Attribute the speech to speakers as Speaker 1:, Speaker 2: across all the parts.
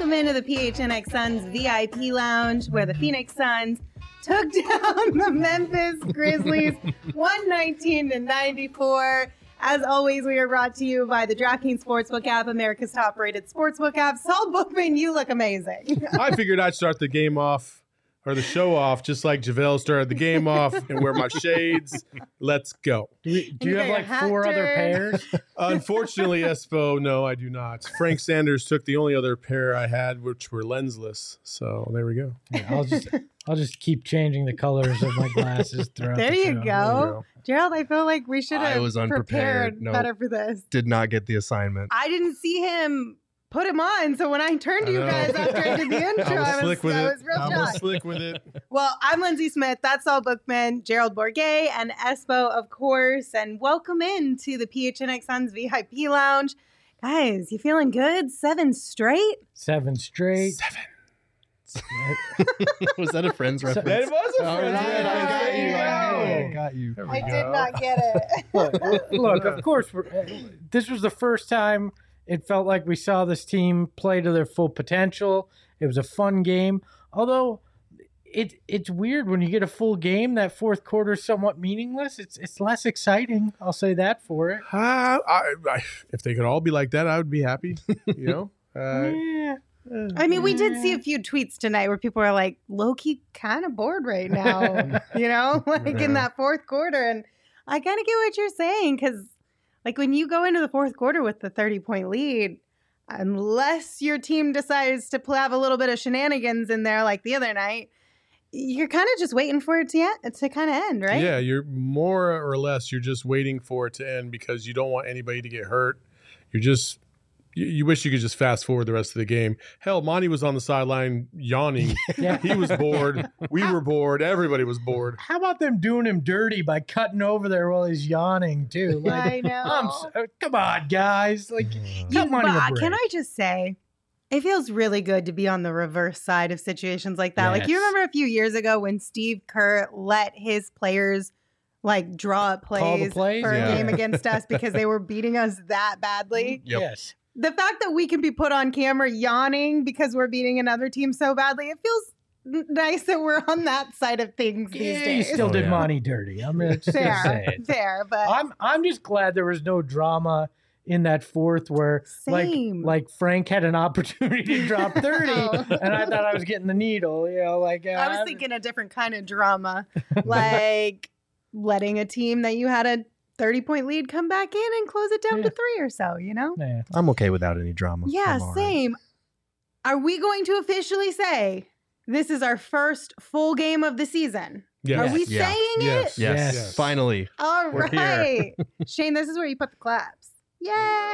Speaker 1: Welcome into the PHNX Suns VIP Lounge, where the Phoenix Suns took down the Memphis Grizzlies 119-94. As always, we are brought to you by the DraftKings Sportsbook app, America's top-rated sportsbook app. Saul Bookman, you look amazing.
Speaker 2: I figured I'd start the game off, or the show off, just like JaVale started the game off, and wear my shades. Let's go.
Speaker 3: Do you have like four other pairs?
Speaker 2: Unfortunately, Espo, no, I do not. Frank Sanders took the only other pair I had, which were lensless. So there we go.
Speaker 3: Yeah, I'll just keep changing the colors of my glasses throughout
Speaker 1: There
Speaker 3: the
Speaker 1: you
Speaker 3: show.
Speaker 1: go. Gerald, I feel like we should
Speaker 4: I
Speaker 1: have
Speaker 4: was
Speaker 1: prepared
Speaker 4: unprepared. No.
Speaker 1: better for this.
Speaker 4: Did not get the assignment.
Speaker 1: I didn't see him put him on, so when I turned to you guys after I did the intro,
Speaker 2: I was
Speaker 1: real
Speaker 2: I was
Speaker 1: shocked.
Speaker 2: slick with it.
Speaker 1: Well, I'm Lindsay Smith. That's Saul Bookman, Gerald Bourget, and Espo, of course. And welcome in to the PHNX Suns VIP Lounge. Guys, you feeling good? 7 straight?
Speaker 3: 7 straight.
Speaker 2: 7.
Speaker 4: Was that a Friends reference?
Speaker 2: That was a Friends
Speaker 4: I
Speaker 2: reference.
Speaker 4: got you.
Speaker 2: There
Speaker 1: I
Speaker 2: we
Speaker 1: did
Speaker 2: go.
Speaker 1: not get it.
Speaker 3: Look, of course, this was the first time it felt like we saw this team play to their full potential. It was a fun game. Although it's weird when you get a full game, that fourth quarter is somewhat meaningless. It's less exciting. I'll say that for it.
Speaker 2: If they could all be like that, I would be happy. You know?
Speaker 3: Yeah.
Speaker 1: I mean, we did see a few tweets tonight where people are like, low-key kind of bored right now, you know, like in that fourth quarter. And I kind of get what you're saying, because like when you go into the fourth quarter with the 30-point lead, unless your team decides to have a little bit of shenanigans in there like the other night, you're kind of just waiting for it to kind of end, right?
Speaker 2: Yeah, you're more or less, you're just waiting for it to end because you don't want anybody to get hurt. You're just... You wish you could just fast forward the rest of the game. Hell, Monty was on the sideline yawning.
Speaker 3: Yeah.
Speaker 2: He was bored. We were bored. Everybody was bored.
Speaker 3: How about them doing him dirty by cutting over there while he's yawning too? Like,
Speaker 1: I know.
Speaker 3: come on, guys! Like, cut money a break.
Speaker 1: Can I just say, it feels really good to be on the reverse side of situations like that. Like, you
Speaker 3: Yes.
Speaker 1: remember a few years ago when Steve Kerr let his players like draw up
Speaker 3: Call the
Speaker 1: plays
Speaker 3: plays?
Speaker 1: for
Speaker 4: Yeah.
Speaker 1: a game against us because they were beating us that badly?
Speaker 4: Yep.
Speaker 3: Yes.
Speaker 1: The fact that we can be put on camera yawning because we're beating another team so badly, it feels nice that we're on that side of things these
Speaker 3: Yeah, you
Speaker 1: days.
Speaker 3: still did
Speaker 4: yeah.
Speaker 3: Monty dirty. I'm just gonna say
Speaker 1: Fair,
Speaker 3: it.
Speaker 1: fair, but
Speaker 3: I'm just glad there was no drama in that fourth where
Speaker 1: Same.
Speaker 3: like Frank had an opportunity to drop 30
Speaker 1: Oh.
Speaker 3: and I thought I was getting the needle, you know, like
Speaker 1: I was thinking a different kind of drama, like letting a team that you had a 30-point lead come back in and close it down
Speaker 3: Yeah.
Speaker 1: to 3 or so, you know?
Speaker 3: yeah.
Speaker 4: I'm okay without any drama.
Speaker 1: Yeah,
Speaker 4: I'm all right.
Speaker 1: same. Are we going to officially say this is our first full game of the season?
Speaker 2: Yes.
Speaker 1: Are we
Speaker 4: Yeah.
Speaker 1: saying
Speaker 2: Yes.
Speaker 1: it?
Speaker 4: Yes.
Speaker 2: Yes.
Speaker 4: Finally.
Speaker 1: All
Speaker 4: We're here.
Speaker 1: right. Shane, this is where you put the claps. Yay!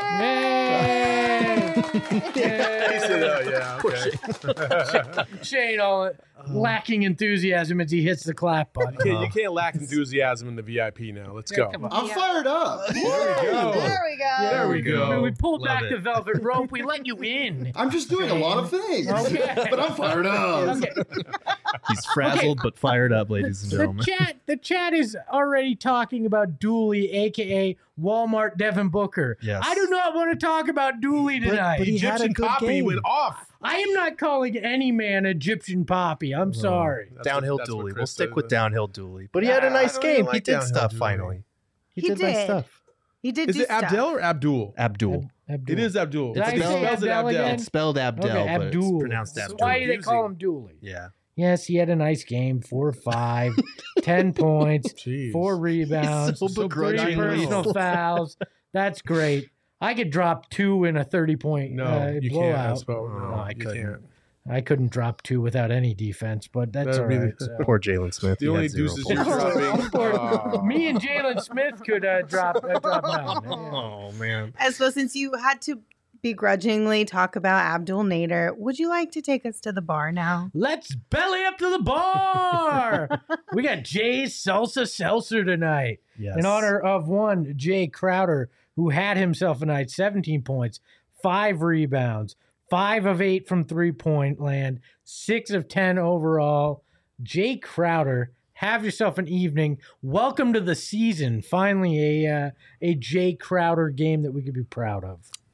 Speaker 3: Yay!
Speaker 2: He said, oh, yeah, okay.
Speaker 3: Shane all lacking enthusiasm as he hits the clap button.
Speaker 2: You can't lack enthusiasm in the VIP now. Let's go.
Speaker 3: Come on.
Speaker 5: I'm fired up.
Speaker 2: There we go.
Speaker 1: There we go.
Speaker 2: There we go.
Speaker 3: We pulled
Speaker 4: Love
Speaker 3: back
Speaker 4: it.
Speaker 3: the velvet rope. We let you in.
Speaker 5: I'm just doing a lot of things.
Speaker 3: Okay.
Speaker 5: But I'm fired up.
Speaker 3: Okay.
Speaker 4: He's frazzled but fired up, ladies and gentlemen.
Speaker 3: The chat is already talking about Dooley, aka Walmart Devin Booker.
Speaker 4: Yes.
Speaker 3: I do not want to talk about Dooley tonight.
Speaker 4: but he had a
Speaker 2: Egyptian
Speaker 4: good
Speaker 2: Poppy
Speaker 4: game.
Speaker 2: went off.
Speaker 3: I am not calling any man Egyptian Poppy. I'm sorry.
Speaker 2: That's
Speaker 4: Downhill
Speaker 2: what
Speaker 4: Dooley. We'll
Speaker 2: Chris
Speaker 4: stick
Speaker 2: said.
Speaker 4: with downhill Dooley. But he had a
Speaker 2: I
Speaker 4: nice
Speaker 2: don't even
Speaker 4: game.
Speaker 2: like
Speaker 4: He did
Speaker 2: downhill
Speaker 4: stuff
Speaker 2: Dooley.
Speaker 4: finally.
Speaker 1: He
Speaker 4: did nice
Speaker 1: did.
Speaker 4: stuff.
Speaker 1: He did
Speaker 2: Is
Speaker 1: do
Speaker 2: it
Speaker 1: stuff.
Speaker 2: Abdel or Abdul?
Speaker 4: Abdul.
Speaker 3: Abdul.
Speaker 2: It is Abdul.
Speaker 3: Did I
Speaker 2: It
Speaker 3: say
Speaker 2: spells it
Speaker 3: Abdel
Speaker 2: Abdel.
Speaker 3: again?
Speaker 4: It's spelled Abdel,
Speaker 3: Okay,
Speaker 4: but
Speaker 3: Abdul.
Speaker 4: it's pronounced
Speaker 3: So
Speaker 4: Abdul.
Speaker 3: why do they call
Speaker 2: Confusing.
Speaker 3: him Dooley?
Speaker 4: Yeah.
Speaker 3: Yes, he had a nice game. 4 or 5, 10 points,
Speaker 2: Jeez.
Speaker 3: 4 rebounds,
Speaker 4: so
Speaker 3: 3
Speaker 4: begrudgingly.
Speaker 3: personal fouls. That's great. I could drop 2 in a 30-point
Speaker 2: No, you
Speaker 3: blowout.
Speaker 2: can't. Espo. No,
Speaker 4: I
Speaker 2: you
Speaker 4: couldn't.
Speaker 2: can't.
Speaker 3: I couldn't drop 2 without any defense, but that's
Speaker 2: That'd
Speaker 3: all
Speaker 2: be the-
Speaker 3: right. so.
Speaker 4: Poor Jalen Smith.
Speaker 2: The
Speaker 4: He
Speaker 2: only
Speaker 4: had 0
Speaker 2: deuces
Speaker 4: points.
Speaker 2: you're dropping.
Speaker 3: Poor- Me and Jalen Smith could drop down.
Speaker 4: Oh, man.
Speaker 1: So since you had to begrudgingly talk about Abdul Nader, would you like to take us to the bar now?
Speaker 3: Let's belly up to the bar. We got Jay's Salsa Seltzer tonight.
Speaker 4: Yes.
Speaker 3: In honor of one Jay Crowder, who had himself a night, 17 points, 5 rebounds, 5 of 8 from three-point land, 6 of 10 overall. Jay Crowder, have yourself an evening. Welcome to the season. Finally, a Jay Crowder game that we could be proud of.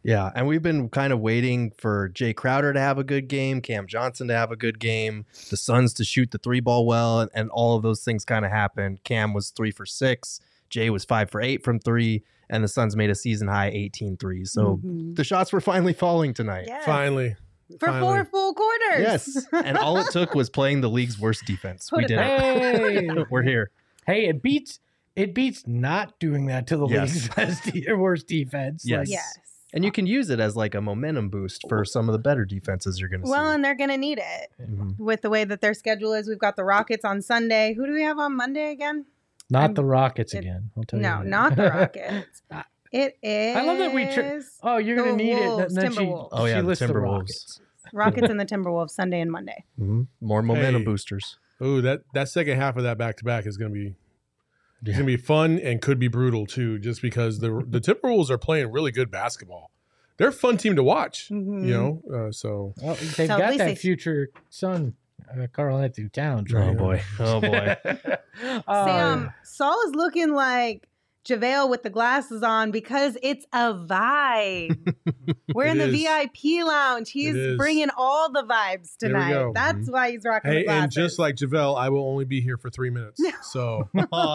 Speaker 4: Yeah, and we've been kind of waiting for Jay Crowder to have a good game, Cam Johnson to have a good game, the Suns to shoot the 3-ball well, and all of those things kind of happened. Cam was 3 for 6, Jay was 5 for 8 from 3, and the Suns made a season high 18 threes. So the shots were finally falling tonight.
Speaker 1: Yes.
Speaker 2: Finally.
Speaker 1: For
Speaker 2: Finally.
Speaker 1: 4 full quarters.
Speaker 4: Yes, and all it took was playing the league's worst defense.
Speaker 1: Put
Speaker 4: We
Speaker 1: it
Speaker 4: did
Speaker 3: Hey,
Speaker 4: it. We're here.
Speaker 3: hey, it beats not doing that to the
Speaker 4: Yes.
Speaker 3: league's worst defense.
Speaker 4: Yes.
Speaker 3: Like,
Speaker 1: Yes.
Speaker 4: And you can use it as like a momentum boost for some of the better defenses you're going to
Speaker 1: Well,
Speaker 4: see.
Speaker 1: and they're going to need it
Speaker 4: Mhm.
Speaker 1: with the way that their schedule is. We've got the Rockets on Sunday. Who do we have on Monday again?
Speaker 3: not the Rockets
Speaker 1: it-
Speaker 3: again. I'll tell you.
Speaker 1: No,
Speaker 3: that.
Speaker 1: not the Rockets. It is.
Speaker 3: I love that we. Oh, you're gonna
Speaker 1: the
Speaker 3: need
Speaker 1: Wolves,
Speaker 3: it. And then
Speaker 1: Timberwolves.
Speaker 4: Oh, yeah,
Speaker 3: she
Speaker 4: the
Speaker 3: lists
Speaker 4: Timberwolves.
Speaker 3: Rockets.
Speaker 1: Rockets and the Timberwolves Sunday and Monday.
Speaker 4: Mhm. More momentum
Speaker 2: Hey.
Speaker 4: boosters.
Speaker 2: Ooh, that second half of that back-to-back is going to be it's going to be fun and could be brutal too, just because the Timberwolves are playing really good basketball. They're a fun team to watch,
Speaker 1: Mhm.
Speaker 2: you know. So
Speaker 3: Well, they've
Speaker 1: So at
Speaker 3: got
Speaker 1: least
Speaker 3: that
Speaker 1: they-
Speaker 3: future son, Carl Anthony Towns.
Speaker 4: Oh,
Speaker 3: Right?
Speaker 4: boy. Oh, boy.
Speaker 1: Sam, Saul is looking like JaVale with the glasses on because it's a vibe. We're in
Speaker 2: It
Speaker 1: the
Speaker 2: is.
Speaker 1: VIP lounge.
Speaker 2: It
Speaker 1: He's
Speaker 2: is.
Speaker 1: bringing all the vibes
Speaker 2: There we
Speaker 1: tonight.
Speaker 2: go.
Speaker 1: That's why he's rocking the
Speaker 2: hey,
Speaker 1: glasses.
Speaker 2: and just like JaVale, I will only be here for 3 minutes. So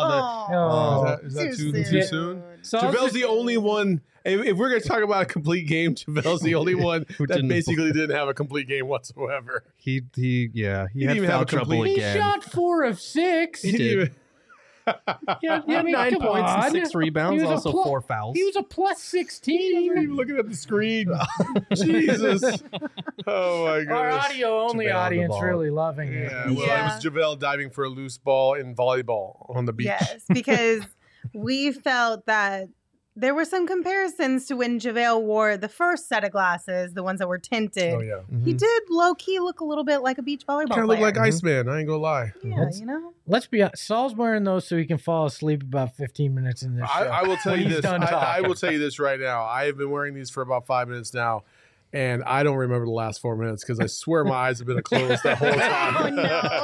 Speaker 3: Oh.
Speaker 2: is that too
Speaker 3: soon.
Speaker 2: soon?
Speaker 3: So
Speaker 2: JaVale's the only one. If we're going to talk about a complete game, JaVale's the only one
Speaker 4: Who
Speaker 2: that
Speaker 4: didn't-
Speaker 2: basically didn't have a complete game whatsoever.
Speaker 4: He
Speaker 2: didn't
Speaker 4: had
Speaker 2: even have
Speaker 4: foul
Speaker 2: a
Speaker 4: trouble
Speaker 2: complete-
Speaker 3: he
Speaker 4: again.
Speaker 3: shot 4 of 6.
Speaker 2: He didn't
Speaker 4: did.
Speaker 2: even-
Speaker 3: Yeah,
Speaker 4: He had 9
Speaker 3: come
Speaker 4: points
Speaker 3: on.
Speaker 4: and 6 rebounds,
Speaker 3: He was a
Speaker 4: also
Speaker 3: plus-
Speaker 4: 4 fouls.
Speaker 3: He was a plus
Speaker 2: He wasn't
Speaker 3: 16.
Speaker 2: even looking at the screen. Jesus. Oh my goodness.
Speaker 3: Our audio only
Speaker 4: JaVale on the
Speaker 3: audience
Speaker 4: ball.
Speaker 3: really loving it.
Speaker 2: Yeah, well,
Speaker 1: Yeah.
Speaker 2: it was JaVale diving for a loose ball in volleyball on the beach.
Speaker 1: Yes, because we felt that there were some comparisons to when JaVale wore the first set of glasses, the ones that were tinted.
Speaker 2: Oh yeah.
Speaker 1: He
Speaker 4: Mhm.
Speaker 1: did low key look a little bit like a beach volleyball
Speaker 2: Kind of
Speaker 1: player.
Speaker 2: look like Iceman. I ain't gonna lie.
Speaker 1: Yeah, you know.
Speaker 3: Let's be honest. Saul's wearing those so he can fall asleep about 15 minutes in this show.
Speaker 2: I will tell
Speaker 3: When
Speaker 2: you
Speaker 3: he's
Speaker 2: this.
Speaker 3: done
Speaker 2: I
Speaker 3: talking.
Speaker 2: will tell you this right now. I have been wearing these for about 5 minutes now, and I don't remember the last 4 minutes because I swear my eyes have been closed that whole time.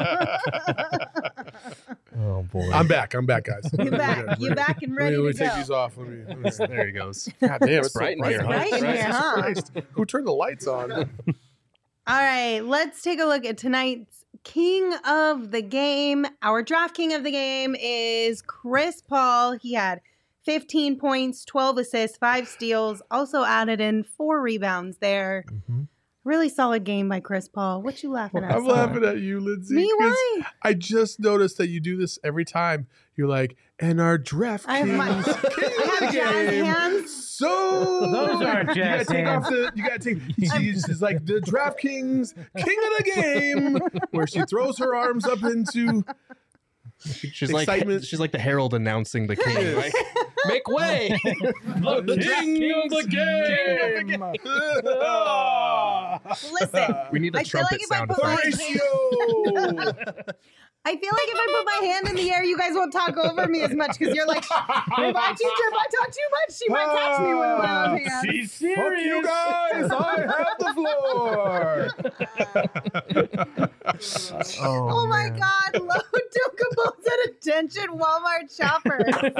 Speaker 4: Oh, boy.
Speaker 2: I'm back, guys.
Speaker 1: You're
Speaker 2: We're
Speaker 1: back.
Speaker 2: good.
Speaker 1: You're back and ready
Speaker 2: Let me
Speaker 1: to
Speaker 2: take
Speaker 1: go.
Speaker 2: these off. Let me
Speaker 4: There he goes.
Speaker 2: God damn, it's
Speaker 4: bright
Speaker 2: so
Speaker 4: in here,
Speaker 1: It's
Speaker 4: huh?
Speaker 1: bright in here,
Speaker 2: Jesus
Speaker 1: huh?
Speaker 2: Christ. Who turned the lights on?
Speaker 1: All right, let's take a look at tonight's king of the game. Our draft king of the game is Chris Paul. He had 15 points, 12 assists, 5 steals, also added in 4 rebounds there.
Speaker 4: Mhm.
Speaker 1: Really solid game by Chris Paul. What you laughing at?
Speaker 2: I'm
Speaker 1: Saul?
Speaker 2: laughing at you, Lindsay.
Speaker 1: Me,
Speaker 2: 'cause
Speaker 1: why?
Speaker 2: I just noticed that you do this every time. You're like, and our draft
Speaker 1: I have
Speaker 2: king,
Speaker 1: my-
Speaker 2: king
Speaker 1: I
Speaker 2: of
Speaker 1: have
Speaker 2: the
Speaker 1: jazz
Speaker 2: game.
Speaker 1: hands.
Speaker 2: So
Speaker 3: Those aren't
Speaker 2: you gotta
Speaker 3: jazz
Speaker 2: take
Speaker 3: hands.
Speaker 2: off the. You gotta take. She's like the DraftKings king of the game, where she throws her arms up into.
Speaker 4: She's
Speaker 2: Excitement.
Speaker 4: like she's like the herald announcing the king.
Speaker 2: Yes.
Speaker 4: Like, make way.
Speaker 2: The king of the game.
Speaker 1: Listen,
Speaker 4: We need a
Speaker 1: I feel
Speaker 4: trumpet
Speaker 1: like if I
Speaker 4: sound
Speaker 1: put my
Speaker 4: effect.
Speaker 2: Horatio.
Speaker 1: I feel like if I put my hand in the air, you guys won't talk over me as much because you're like, if I talk too much, she might catch me with my own hand.
Speaker 3: She's
Speaker 2: Fuck
Speaker 3: serious.
Speaker 2: you guys! I have the floor.
Speaker 1: Oh my God, Lo Dukables at attention Walmart shopper.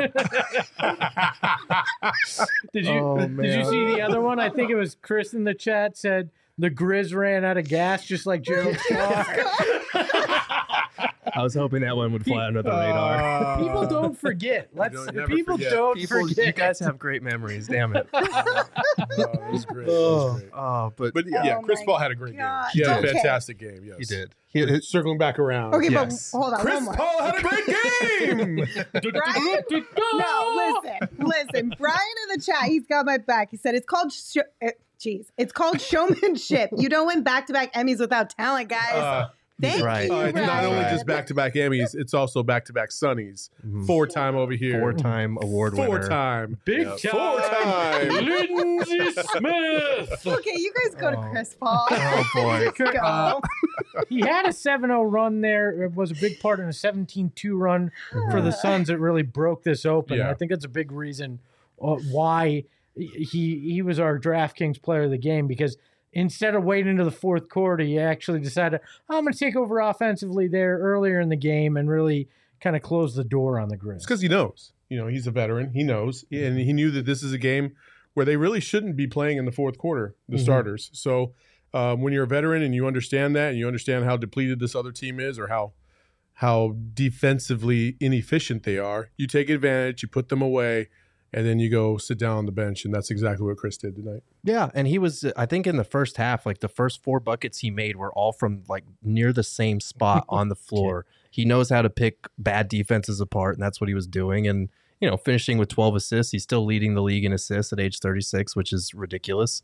Speaker 3: Did you
Speaker 4: Oh,
Speaker 3: did you
Speaker 4: man.
Speaker 3: see the other one? I think it was Chris in the chat said the Grizz ran out of gas just like Gerald Scott.
Speaker 4: I was hoping that one would fly under the radar.
Speaker 3: People don't forget.
Speaker 2: don't never
Speaker 3: People
Speaker 2: forget.
Speaker 3: don't
Speaker 4: People,
Speaker 3: forget.
Speaker 4: you guys have great memories. Damn it.
Speaker 2: That was great. That was great.
Speaker 4: But
Speaker 2: But yeah,
Speaker 1: Oh
Speaker 2: Chris
Speaker 1: my
Speaker 2: Paul had a great
Speaker 1: God.
Speaker 2: game. He had
Speaker 1: Okay.
Speaker 2: a fantastic game. Yes,
Speaker 4: he did.
Speaker 2: Circling back around.
Speaker 1: Okay,
Speaker 4: Yes.
Speaker 1: but hold on.
Speaker 2: Chris
Speaker 1: one more.
Speaker 2: Paul had a great game.
Speaker 1: Brian? No, listen. Brian in the chat, he's got my back. He said it's called it's called showmanship. You don't win back-to-back Emmys without talent, guys. Thank
Speaker 4: right.
Speaker 1: you,
Speaker 2: It's not only
Speaker 1: Brian.
Speaker 2: just back-to-back Emmys, it's also back-to-back Sonnies.
Speaker 4: Mhm.
Speaker 2: 4-time over here.
Speaker 4: 4-time award winner.
Speaker 2: 4-time.
Speaker 3: Big
Speaker 2: Yeah,
Speaker 3: time.
Speaker 2: 4-time.
Speaker 3: Lindsey Smith.
Speaker 1: Okay, you guys go to Chris Paul.
Speaker 4: Oh, boy.
Speaker 1: Let's go.
Speaker 3: He had a 7-0 run there. It was a big part in a 17-2 run for the Suns that really broke this open.
Speaker 2: Yeah.
Speaker 3: I think that's a big reason why he was our DraftKings player of the game, because instead of waiting into the fourth quarter, he actually decided, I'm going to take over offensively there earlier in the game and really kind of close the door on the Grizz.
Speaker 2: It's because he knows. You know, he's a veteran. He knows. And he knew that this is a game where they really shouldn't be playing in the fourth quarter, the starters. So when you're a veteran and you understand that and you understand how depleted this other team is or how defensively inefficient they are, you take advantage, you put them away, and then you go sit down on the bench, and that's exactly what Chris did tonight.
Speaker 4: Yeah, and he was, I think in the first half, like the first 4 buckets he made were all from like near the same spot on the floor. He knows how to pick bad defenses apart, and that's what he was doing. And, you know, finishing with 12 assists, he's still leading the league in assists at age 36, which is ridiculous.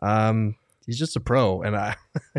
Speaker 4: He's just a pro, and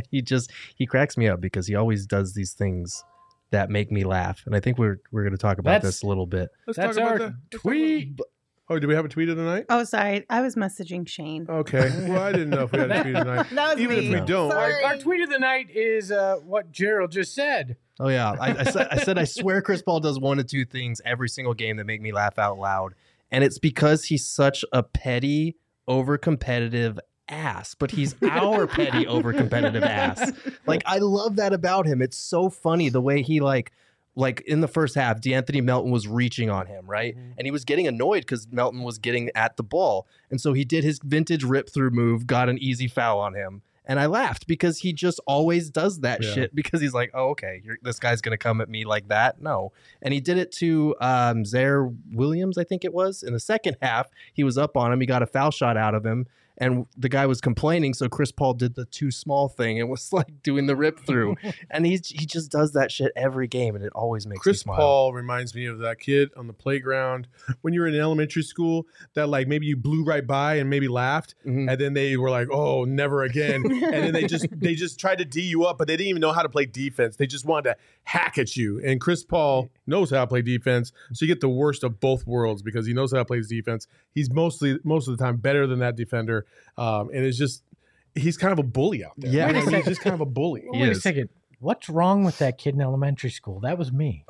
Speaker 4: he cracks me up because he always does these things that make me laugh. And I think we're going to talk about this a little bit.
Speaker 2: Let's
Speaker 3: That's
Speaker 2: talk about
Speaker 3: our
Speaker 2: that.
Speaker 3: tweet.
Speaker 2: Oh, do we have a tweet of the night?
Speaker 1: Oh, sorry. I was messaging Shane.
Speaker 2: Okay. Well, I didn't know if we had a tweet of the night.
Speaker 1: That was
Speaker 2: Even
Speaker 1: me.
Speaker 2: if we don't,
Speaker 1: Sorry.
Speaker 3: Our tweet of the night is what Gerald just said.
Speaker 4: Oh yeah, I said I swear Chris Paul does 1 of 2 things every single game that make me laugh out loud, and it's because he's such a petty, over-competitive ass. But he's our petty, over-competitive ass. Like, I love that about him. It's so funny the way he like in the first half, DeAnthony Melton was reaching on him, right? And he was getting annoyed because Melton was getting at the ball, and so he did his vintage rip-through move, got an easy foul on him. And I laughed because he just always does that shit because he's like, oh, okay, this guy's going to come at me like that. No. And he did it to Zaire Williams, I think it was. In the second half, he was up on him. He got a foul shot out of him. And the guy was complaining, so Chris Paul did the too small thing and was like doing the rip through. And he just does that shit every game, and it always makes me
Speaker 2: Chris
Speaker 4: smile.
Speaker 2: Paul reminds me of that kid on the playground when you were in elementary school that like maybe you blew right by and maybe laughed, and then they were like, "Oh, never again!" And then they just tried to D you up, but they didn't even know how to play defense. They just wanted to hack at you. And Chris Paul knows how to play defense, so you get the worst of both worlds because he knows how to play his defense. He's most of the time better than that defender. And it's just, he's kind of a bully out there.
Speaker 4: Yeah.
Speaker 2: You know, he's just kind of a bully.
Speaker 3: Wait a second. What's wrong with that kid in elementary school? That was me.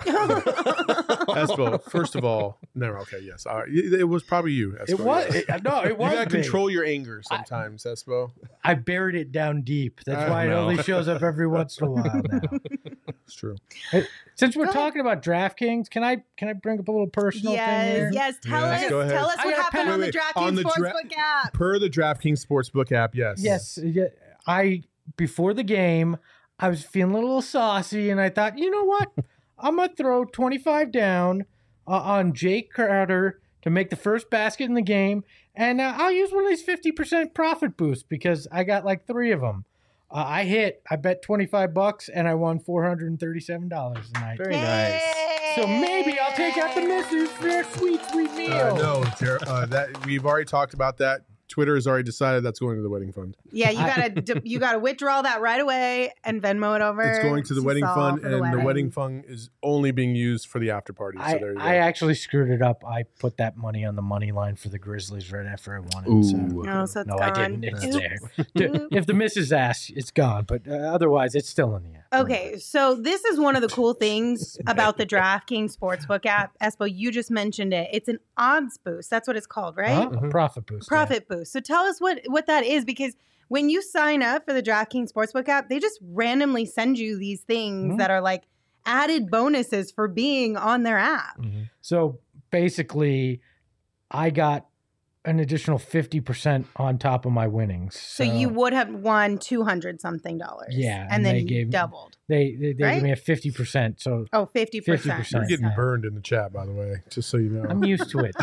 Speaker 2: Espo, first of all, no, okay, yes. It was probably you, Espo.
Speaker 3: It was.
Speaker 2: yes.
Speaker 3: It was
Speaker 2: You got to
Speaker 3: me.
Speaker 2: control your anger sometimes, Espo.
Speaker 3: I buried it down deep. That's why it
Speaker 2: know.
Speaker 3: only shows up every once in a while now.
Speaker 2: It's true.
Speaker 3: Since we're
Speaker 1: Go ahead.
Speaker 3: talking about DraftKings, can I bring up a little personal thing here?
Speaker 1: Yes. Tell
Speaker 2: Yes,
Speaker 1: us.
Speaker 2: go ahead.
Speaker 1: Tell us
Speaker 3: I
Speaker 1: what
Speaker 3: gotta
Speaker 1: happened
Speaker 3: pat-
Speaker 1: on the
Speaker 2: wait,
Speaker 1: DraftKings
Speaker 2: on the
Speaker 1: Sportsbook app.
Speaker 2: Per the DraftKings Sportsbook app, yes.
Speaker 3: Yes. I before the game, I was feeling a little saucy, and I thought, you know what? I'm gonna throw 25 down on Jake Crowder to make the first basket in the game, and I'll use one of these 50% profit boosts because I got like 3 of them. I bet $25 and I won $437 tonight.
Speaker 4: Very nice.
Speaker 3: So maybe I'll take out the missus for a sweet, sweet meal.
Speaker 2: No, that we've already talked about that. Twitter has already decided that's going to the wedding fund.
Speaker 1: Yeah, you gotta withdraw that right away and Venmo it over.
Speaker 2: It's going to the wedding
Speaker 1: Saul
Speaker 2: fund,
Speaker 1: for
Speaker 2: and the wedding fund is only being used for the after party. So there you go.
Speaker 3: I actually screwed it up. I put that money on the money line for the Grizzlies right after I won it. So.
Speaker 1: No, so it's
Speaker 3: No,
Speaker 1: gone.
Speaker 3: I didn't. It's
Speaker 1: Oops.
Speaker 3: there. If the missus asks, it's gone. But otherwise, it's still in the app.
Speaker 1: Okay, so this is one of the cool things about the DraftKings Sportsbook app. Espo, you just mentioned it. It's an odds boost. That's what it's called, right?
Speaker 3: A profit boost.
Speaker 1: Profit boost. So tell us what that is, because when you sign up for the DraftKings Sportsbook app, they just randomly send you these things that are like added bonuses for being on their app.
Speaker 3: Yeah. So basically, I got an additional 50% on top of my winnings.
Speaker 1: So you would have won $200 something.
Speaker 3: Yeah,
Speaker 1: And
Speaker 3: and
Speaker 1: then
Speaker 3: they
Speaker 1: you
Speaker 3: gave-
Speaker 1: doubled.
Speaker 3: They
Speaker 1: Right?
Speaker 3: gave me a 50%. So
Speaker 1: 50%.
Speaker 3: 50%.
Speaker 2: You're getting burned in the chat, by the way, just so you know.
Speaker 3: I'm used to it.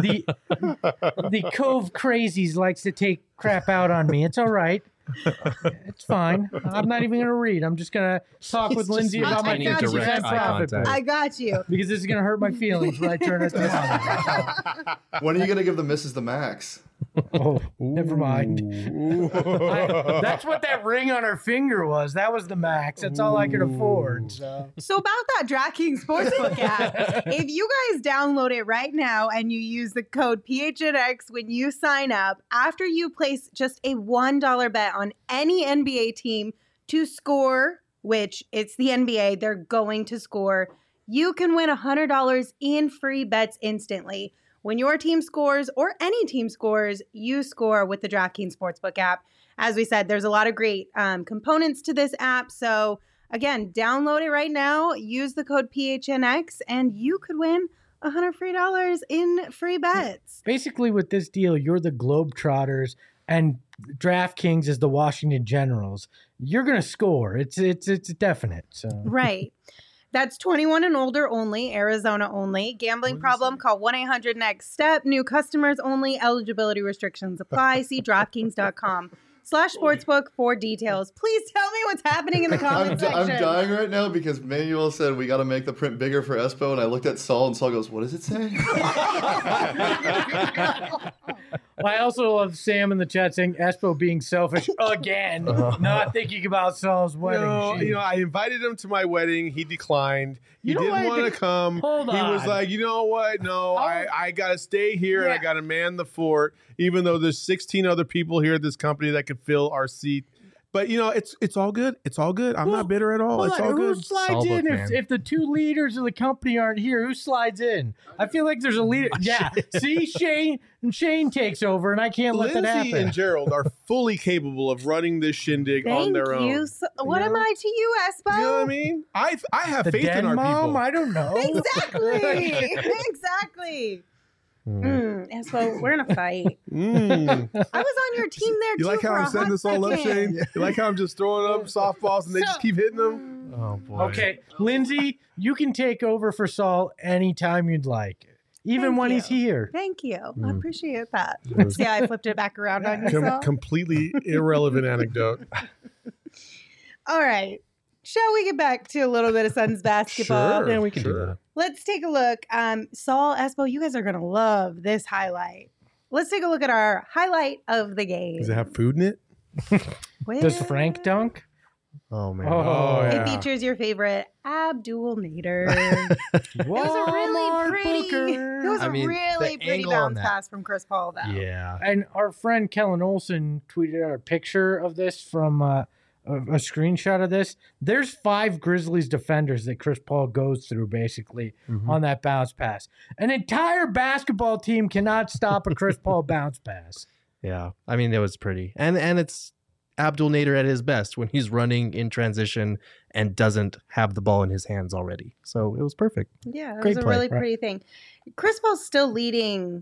Speaker 3: The Cove Crazies likes to take crap out on me. It's all right. It's fine. I'm not even going to read. I'm just going to talk with
Speaker 4: He's
Speaker 3: Lindsay
Speaker 4: just
Speaker 3: about my
Speaker 1: maintaining
Speaker 3: 50%
Speaker 1: direct eye
Speaker 3: profit
Speaker 4: contact.
Speaker 3: boost.
Speaker 1: I got you.
Speaker 3: Because this is going to hurt my feelings when I turn it down.
Speaker 5: When are you going to give the missus the max?
Speaker 3: Oh, never mind.
Speaker 2: Ooh.
Speaker 3: That's what that ring on her finger was. That was the max. That's all I could afford. So.
Speaker 1: So about that DraftKings Sportsbook app, if you guys download it right now and you use the code PHNX when you sign up, after you place just a $1 bet on any NBA team to score, which it's the NBA, they're going to score, you can win $100 in free bets instantly. When your team scores or any team scores, you score with the DraftKings Sportsbook app. As we said, there's a lot of great components to this app. So again, download it right now, use the code PHNX, and you could win $100 free in free bets.
Speaker 3: Basically, with this deal, you're the Globetrotters and DraftKings is the Washington Generals. You're going to score. It's definite. So.
Speaker 1: Right. That's 21 and older only, Arizona only. Gambling problem, call 1-800-NEXT-STEP. New customers only. Eligibility restrictions apply. See DraftKings.com/sportsbook for details. Please tell me what's happening in the comment section.
Speaker 5: I'm dying right now because Manuel said we got to make the print bigger for Espo, and I looked at Saul, and Saul goes, "What does it say?"
Speaker 3: I also love Sam in the chat saying Espo being selfish again, not thinking about Saul's wedding.
Speaker 2: No, I invited him to my wedding. He declined. He didn't want to come.
Speaker 3: Hold on.
Speaker 2: He was like, you know what? No, I got to stay here and I got to man the fort, even though there's 16 other people here at this company that could fill our seat. But, it's all good. It's all good. I'm not bitter at all. It's all good.
Speaker 3: Who slides in if the two leaders of the company aren't here? Who slides in? I feel like there's a leader. Yeah. See, Shane takes over, and I can't let that happen.
Speaker 2: Lindsay and Gerald are fully capable of running this shindig on their own.
Speaker 1: Thank you. What am I to you, Espo?
Speaker 2: You know what I mean? I have
Speaker 3: The
Speaker 2: faith
Speaker 3: den
Speaker 2: in our
Speaker 3: mom?
Speaker 2: people.
Speaker 3: I don't know.
Speaker 1: Exactly. Exactly. Espo, we're going to fight. I was on your team there, too.
Speaker 2: You like how I'm setting this all up, Shane? You like how I'm just throwing up softballs and they just keep hitting them?
Speaker 4: Oh, boy.
Speaker 3: Okay, Lindsay, you can take over for Saul anytime you'd like, even
Speaker 1: Thank
Speaker 3: when
Speaker 1: you.
Speaker 3: he's here.
Speaker 1: Thank you. I appreciate that. See how I flipped it back around on you, Saul?
Speaker 2: Completely irrelevant anecdote.
Speaker 1: All right. Shall we get back to a little bit of Suns basketball?
Speaker 2: Sure.
Speaker 4: Yeah, we can do that.
Speaker 1: Let's take a look. Saul, Espo, you guys are going to love this highlight. Let's take a look at our highlight of the game.
Speaker 2: Does it have food in it?
Speaker 3: Does Frank dunk?
Speaker 4: Oh, man.
Speaker 3: Oh,
Speaker 1: It
Speaker 2: yeah.
Speaker 1: features your favorite Abdul Nader. It was a really pretty, it was
Speaker 4: I
Speaker 1: a
Speaker 4: really
Speaker 1: really pretty
Speaker 4: angle on
Speaker 1: bounce
Speaker 4: that.
Speaker 1: pass from Chris Paul, though.
Speaker 4: Yeah.
Speaker 3: And our friend Kellen Olson tweeted out a picture of this from a screenshot of this. There's 5 Grizzlies defenders that Chris Paul goes through basically on that bounce pass. An entire basketball team cannot stop a Chris Paul bounce pass.
Speaker 4: Yeah. I mean, it was pretty. And it's Abdul Nader at his best when he's running in transition and doesn't have the ball in his hands already. So it was perfect.
Speaker 1: Yeah, it
Speaker 4: Great
Speaker 1: was a
Speaker 4: play,
Speaker 1: really
Speaker 4: right?
Speaker 1: pretty thing. Chris Paul's still leading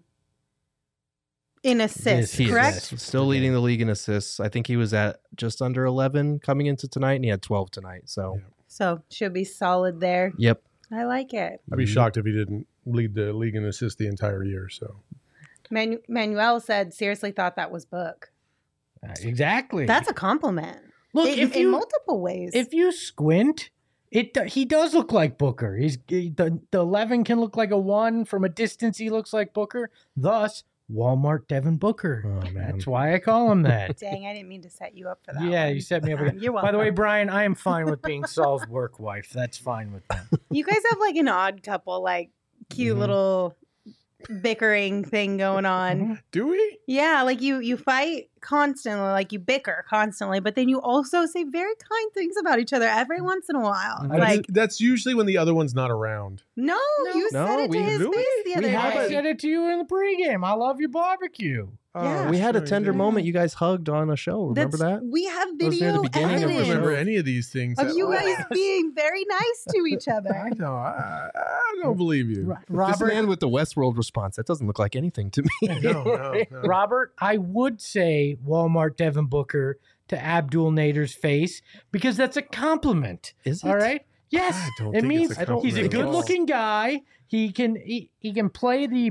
Speaker 1: in assists,
Speaker 3: He is.
Speaker 1: correct?
Speaker 3: Yes.
Speaker 4: Still leading the league in assists. I think he was at just under 11 coming into tonight, and he had 12 tonight. So,
Speaker 1: So should be solid there.
Speaker 4: yep.
Speaker 1: I like it.
Speaker 2: I'd be shocked if he didn't lead the league in assists the entire year. So
Speaker 1: Manuel said, seriously thought that was Book.
Speaker 3: Exactly.
Speaker 1: That's a compliment.
Speaker 3: Look,
Speaker 1: in multiple ways.
Speaker 3: If you squint, he does look like Booker. The 11 can look like a 1 from a distance. He looks like Booker. Thus, Walmart Devin Booker.
Speaker 4: Oh, man.
Speaker 3: That's why I call him that.
Speaker 1: Dang, I didn't mean to set you up for that.
Speaker 3: Yeah,
Speaker 1: one.
Speaker 3: you set me up again.
Speaker 1: You're
Speaker 3: By the way,
Speaker 1: welcome.
Speaker 3: Brian, I am fine with being Saul's work wife. That's fine with them.
Speaker 1: You guys have like an odd couple, like cute little bickering thing going on.
Speaker 2: do we?
Speaker 1: Yeah, like you fight constantly, like you bicker constantly, but then you also say very kind things about each other every once in a while. Like,
Speaker 2: That's usually when the other one's not around.
Speaker 1: no, you
Speaker 4: No,
Speaker 1: said it to
Speaker 4: we-
Speaker 1: his
Speaker 2: really?
Speaker 1: face the
Speaker 3: We
Speaker 1: other
Speaker 3: haven't
Speaker 1: day.
Speaker 3: said it to you in the pregame. I love your barbecue.
Speaker 1: Yeah.
Speaker 4: We had a
Speaker 2: sure,
Speaker 4: tender
Speaker 2: yeah.
Speaker 4: moment. You guys hugged on a show. Remember that?
Speaker 1: We have
Speaker 4: That was near the
Speaker 1: video
Speaker 4: beginning of the
Speaker 2: I don't
Speaker 1: evidence
Speaker 2: remember any of these things.
Speaker 1: of you
Speaker 2: at all.
Speaker 1: guys being very nice to each
Speaker 2: I
Speaker 1: other.
Speaker 2: know. I don't believe you.
Speaker 4: This
Speaker 3: Robert,
Speaker 4: man with the Westworld response, that doesn't look like anything to me.
Speaker 2: No.
Speaker 3: Robert, I would say Walmart Devin Booker to Abdul Nader's face because that's a compliment.
Speaker 4: Is it?
Speaker 3: All right? Yes.
Speaker 2: I don't
Speaker 3: It
Speaker 2: think
Speaker 3: means
Speaker 2: it's a
Speaker 3: he's a
Speaker 2: compliment at all.
Speaker 3: good-looking guy. He can play the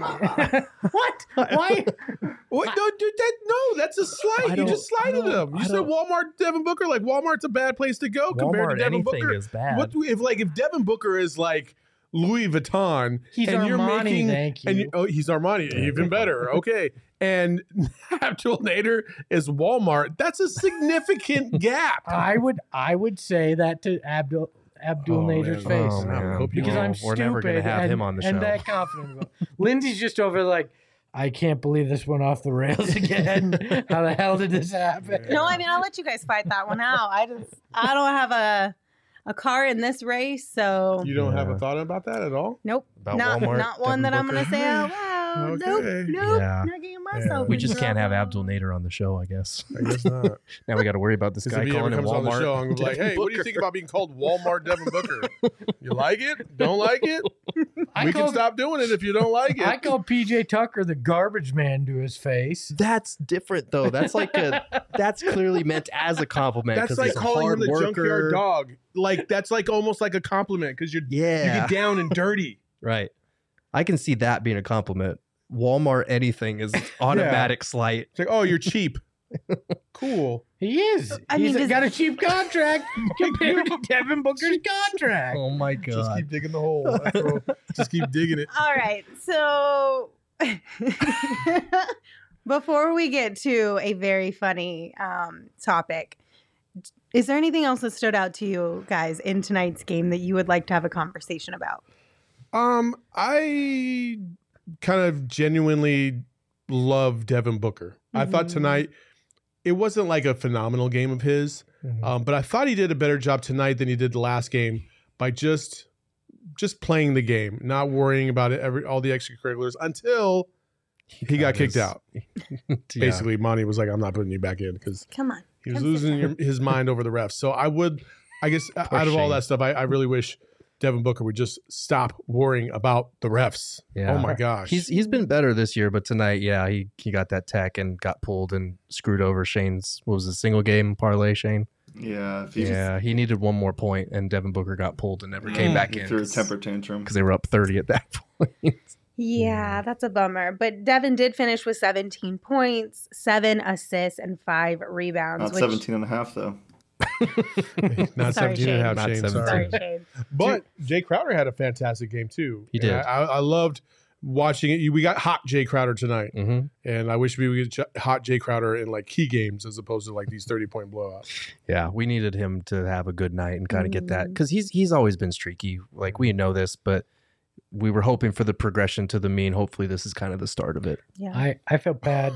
Speaker 3: what? Why?
Speaker 2: What? No, dude, that's a
Speaker 4: I
Speaker 2: slight. You
Speaker 4: don't-
Speaker 2: just slighted him. You
Speaker 4: I
Speaker 2: said
Speaker 4: don't-
Speaker 2: Walmart Devin Booker. Like Walmart's a bad place to go compared to
Speaker 4: Walmart,
Speaker 2: Devin
Speaker 4: anything
Speaker 2: Booker.
Speaker 4: is bad.
Speaker 2: What if Devin Booker is like Louis Vuitton
Speaker 3: He's
Speaker 2: and you're
Speaker 3: Armani,
Speaker 2: making
Speaker 3: thank you.
Speaker 2: and he's Armani, even better. Okay, and Abdul Nader is Walmart. That's a significant gap.
Speaker 3: I would say that to Abdul Nader's
Speaker 2: man.
Speaker 3: face.
Speaker 4: Oh, man.
Speaker 2: I hope you
Speaker 3: Because
Speaker 2: don't.
Speaker 3: I'm
Speaker 4: We're
Speaker 3: stupid
Speaker 4: never gonna have
Speaker 3: and,
Speaker 4: him on the
Speaker 3: and
Speaker 4: show.
Speaker 3: that confident. Lindsay's just over like, I can't believe this went off the rails again. How the hell did this happen?
Speaker 1: No, I mean I'll let you guys fight that one out. I don't have a car in this race, so
Speaker 2: You don't have a
Speaker 4: Yeah.
Speaker 2: thought about that at all?
Speaker 1: nope,
Speaker 4: About
Speaker 1: not
Speaker 4: Walmart,
Speaker 1: one
Speaker 4: Devin
Speaker 1: that I'm
Speaker 4: Booker?
Speaker 1: gonna say out loud. Nope,
Speaker 2: Okay.
Speaker 4: Yeah.
Speaker 1: not getting myself.
Speaker 4: We
Speaker 1: in
Speaker 4: just can't have
Speaker 1: trouble.
Speaker 4: Abdul Nader on the show, I guess.
Speaker 2: I guess not.
Speaker 4: Now we got to worry about this
Speaker 2: Because
Speaker 4: guy
Speaker 2: if he ever
Speaker 4: calling him
Speaker 2: comes on the
Speaker 4: Walmart.
Speaker 2: show, I'm gonna be like,
Speaker 4: Devin
Speaker 2: hey, what do you
Speaker 4: Booker.
Speaker 2: think about being called Walmart Devin Booker? You like it? Don't like it?
Speaker 3: I
Speaker 2: We can
Speaker 3: called-
Speaker 2: stop doing it if you don't like
Speaker 3: I
Speaker 2: it.
Speaker 3: called PJ Tucker the garbage man to his face.
Speaker 4: That's different though. That's that's clearly meant as a compliment.
Speaker 2: That's
Speaker 4: 'cause
Speaker 2: like
Speaker 4: he's a
Speaker 2: calling him
Speaker 4: hard
Speaker 2: the
Speaker 4: worker.
Speaker 2: junkyard dog. Like that's like almost like a compliment because you
Speaker 4: Yeah.
Speaker 2: get down and dirty.
Speaker 4: Right. I can see that being a compliment. Walmart anything is automatic slight.
Speaker 2: It's like, oh, you're cheap. Cool.
Speaker 3: He is.
Speaker 1: I mean,
Speaker 3: He's
Speaker 1: does-
Speaker 3: got a cheap contract compared to Devin Booker's contract.
Speaker 4: Oh my
Speaker 2: Just
Speaker 4: god.
Speaker 2: keep digging the hole. That's all. Just keep digging it.
Speaker 1: All right. So before we get to a very funny topic, is there anything else that stood out to you guys in tonight's game that you would like to have a conversation about?
Speaker 2: I kind of genuinely love Devin Booker. I thought
Speaker 1: Mhm.
Speaker 2: tonight it wasn't like a phenomenal game of his, but I thought he did a better job tonight than he did the last game by just playing the game, not worrying about it all the extracurriculars until he got kicked out. Basically, Monty was like, "I'm not putting you back in" because
Speaker 1: Come on.
Speaker 2: he was
Speaker 1: Come sit
Speaker 2: losing
Speaker 1: down.
Speaker 2: his mind over the refs. So I guess out of all
Speaker 4: Shane.
Speaker 2: that stuff, I really wish Devin Booker would just stop worrying about the refs.
Speaker 4: Yeah.
Speaker 2: Oh my gosh.
Speaker 4: He's been better this year, but tonight, yeah, he got that tech and got pulled and screwed over Shane's, what was it, single game parlay, Shane?
Speaker 5: Yeah, if he
Speaker 4: Yeah, he needed one more point, and Devin Booker got pulled and never came back
Speaker 5: he
Speaker 4: in
Speaker 5: threw a
Speaker 4: because
Speaker 5: temper tantrum.
Speaker 4: they were up 30 at that point.
Speaker 1: Yeah, that's a bummer. But Devin did finish with 17 points, 7 assists, and 5 rebounds.
Speaker 5: Not
Speaker 1: which,
Speaker 5: 17 and a half, though.
Speaker 2: not
Speaker 1: Sorry,
Speaker 2: 17 and a half,
Speaker 4: Shane.
Speaker 2: Shane.
Speaker 4: Not
Speaker 2: Sorry.
Speaker 1: Sorry, Shane.
Speaker 2: But Jay Crowder had a fantastic game too.
Speaker 4: He
Speaker 2: And
Speaker 4: did.
Speaker 2: I loved watching it. We got hot Jay Crowder tonight,
Speaker 4: Mm-hmm.
Speaker 2: and I wish we would get hot Jay Crowder in like key games as opposed to like these 30-point blowouts.
Speaker 4: Yeah, we needed him to have a good night and kind of get that
Speaker 1: Mm.
Speaker 4: because he's always been streaky. Like we know this, but we were hoping for the progression to the mean. Hopefully, this is kind of the start of it.
Speaker 1: Yeah.
Speaker 3: I felt bad.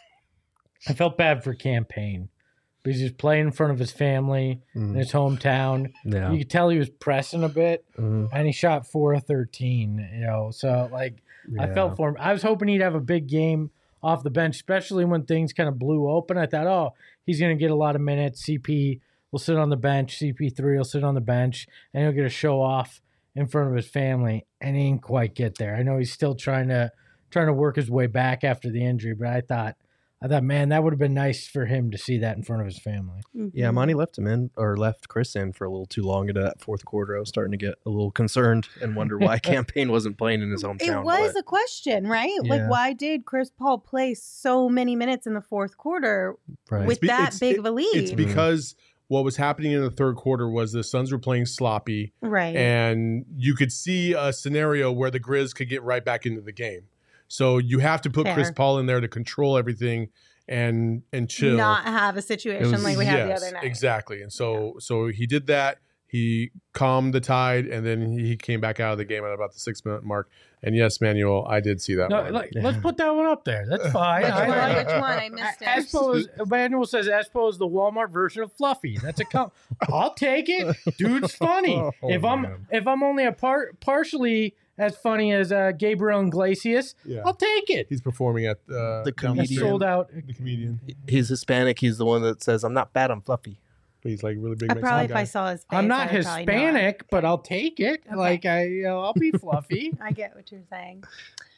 Speaker 3: I felt bad for Campaign because he's playing in front of his family in his hometown.
Speaker 4: Yeah,
Speaker 3: You could tell he was pressing a bit,
Speaker 4: Mhm.
Speaker 3: and he shot 4 of 13. So like I
Speaker 4: Yeah.
Speaker 3: felt for him. I was hoping he'd have a big game off the bench, especially when things kind of blew open. I thought, oh, he's going to get a lot of minutes. CP will sit on the bench. CP3 will sit on the bench, and he'll get a show off in front of his family. And he didn't quite get there. I know he's still trying to work his way back after the injury, but I thought, man, that would have been nice for him to see that in front of his family.
Speaker 4: Yeah,
Speaker 1: Mhm.
Speaker 4: Monty left him in or left Chris in for a little too long into that fourth quarter. I was starting to get a little concerned and wonder why Campaign wasn't playing in his hometown.
Speaker 1: It was
Speaker 4: but-
Speaker 1: a question, right?
Speaker 4: Yeah.
Speaker 1: Like, why did Chris Paul play so many minutes in the fourth quarter
Speaker 4: right.
Speaker 1: with that big of a lead?
Speaker 2: It's because what was happening in the third quarter was the Suns were playing sloppy,
Speaker 1: right.
Speaker 2: and you could see a scenario where the Grizz could get right back into the game. So you have to put Chris
Speaker 1: Fair.
Speaker 2: Paul in there to control everything and chill.
Speaker 1: Not have a situation
Speaker 4: was-
Speaker 1: like we had the
Speaker 2: Yes,
Speaker 1: other night.
Speaker 2: exactly. And so he did that. He calmed the tide, and then he came back out of the game at about the 6-minute mark. And yes, Manuel, I did see that
Speaker 3: No,
Speaker 2: one.
Speaker 3: let's put that one up there. That's fine.
Speaker 1: Which
Speaker 3: I
Speaker 1: one?
Speaker 3: like-
Speaker 1: Which one? I missed it.
Speaker 3: Espo is, Manuel says Espo is the Walmart version of Fluffy. That's a I'll take it. Dude's funny.
Speaker 4: Oh, man.
Speaker 3: if I'm only a partially as funny as Gabriel Iglesias,
Speaker 2: Yeah.
Speaker 3: I'll take it.
Speaker 2: He's performing at
Speaker 4: The
Speaker 2: down
Speaker 3: He's
Speaker 2: street.
Speaker 3: sold out.
Speaker 2: The comedian.
Speaker 4: He's Hispanic. He's the one that says, "I'm not bad. I'm fluffy."
Speaker 2: He's like really big.
Speaker 1: I
Speaker 2: Mexican
Speaker 1: probably, if
Speaker 2: guy.
Speaker 1: I saw his face,
Speaker 3: I'm not
Speaker 1: I would probably know it.
Speaker 3: Hispanic, but I'll take it.
Speaker 1: Okay.
Speaker 3: Like I'll be fluffy.
Speaker 1: I get what you're saying.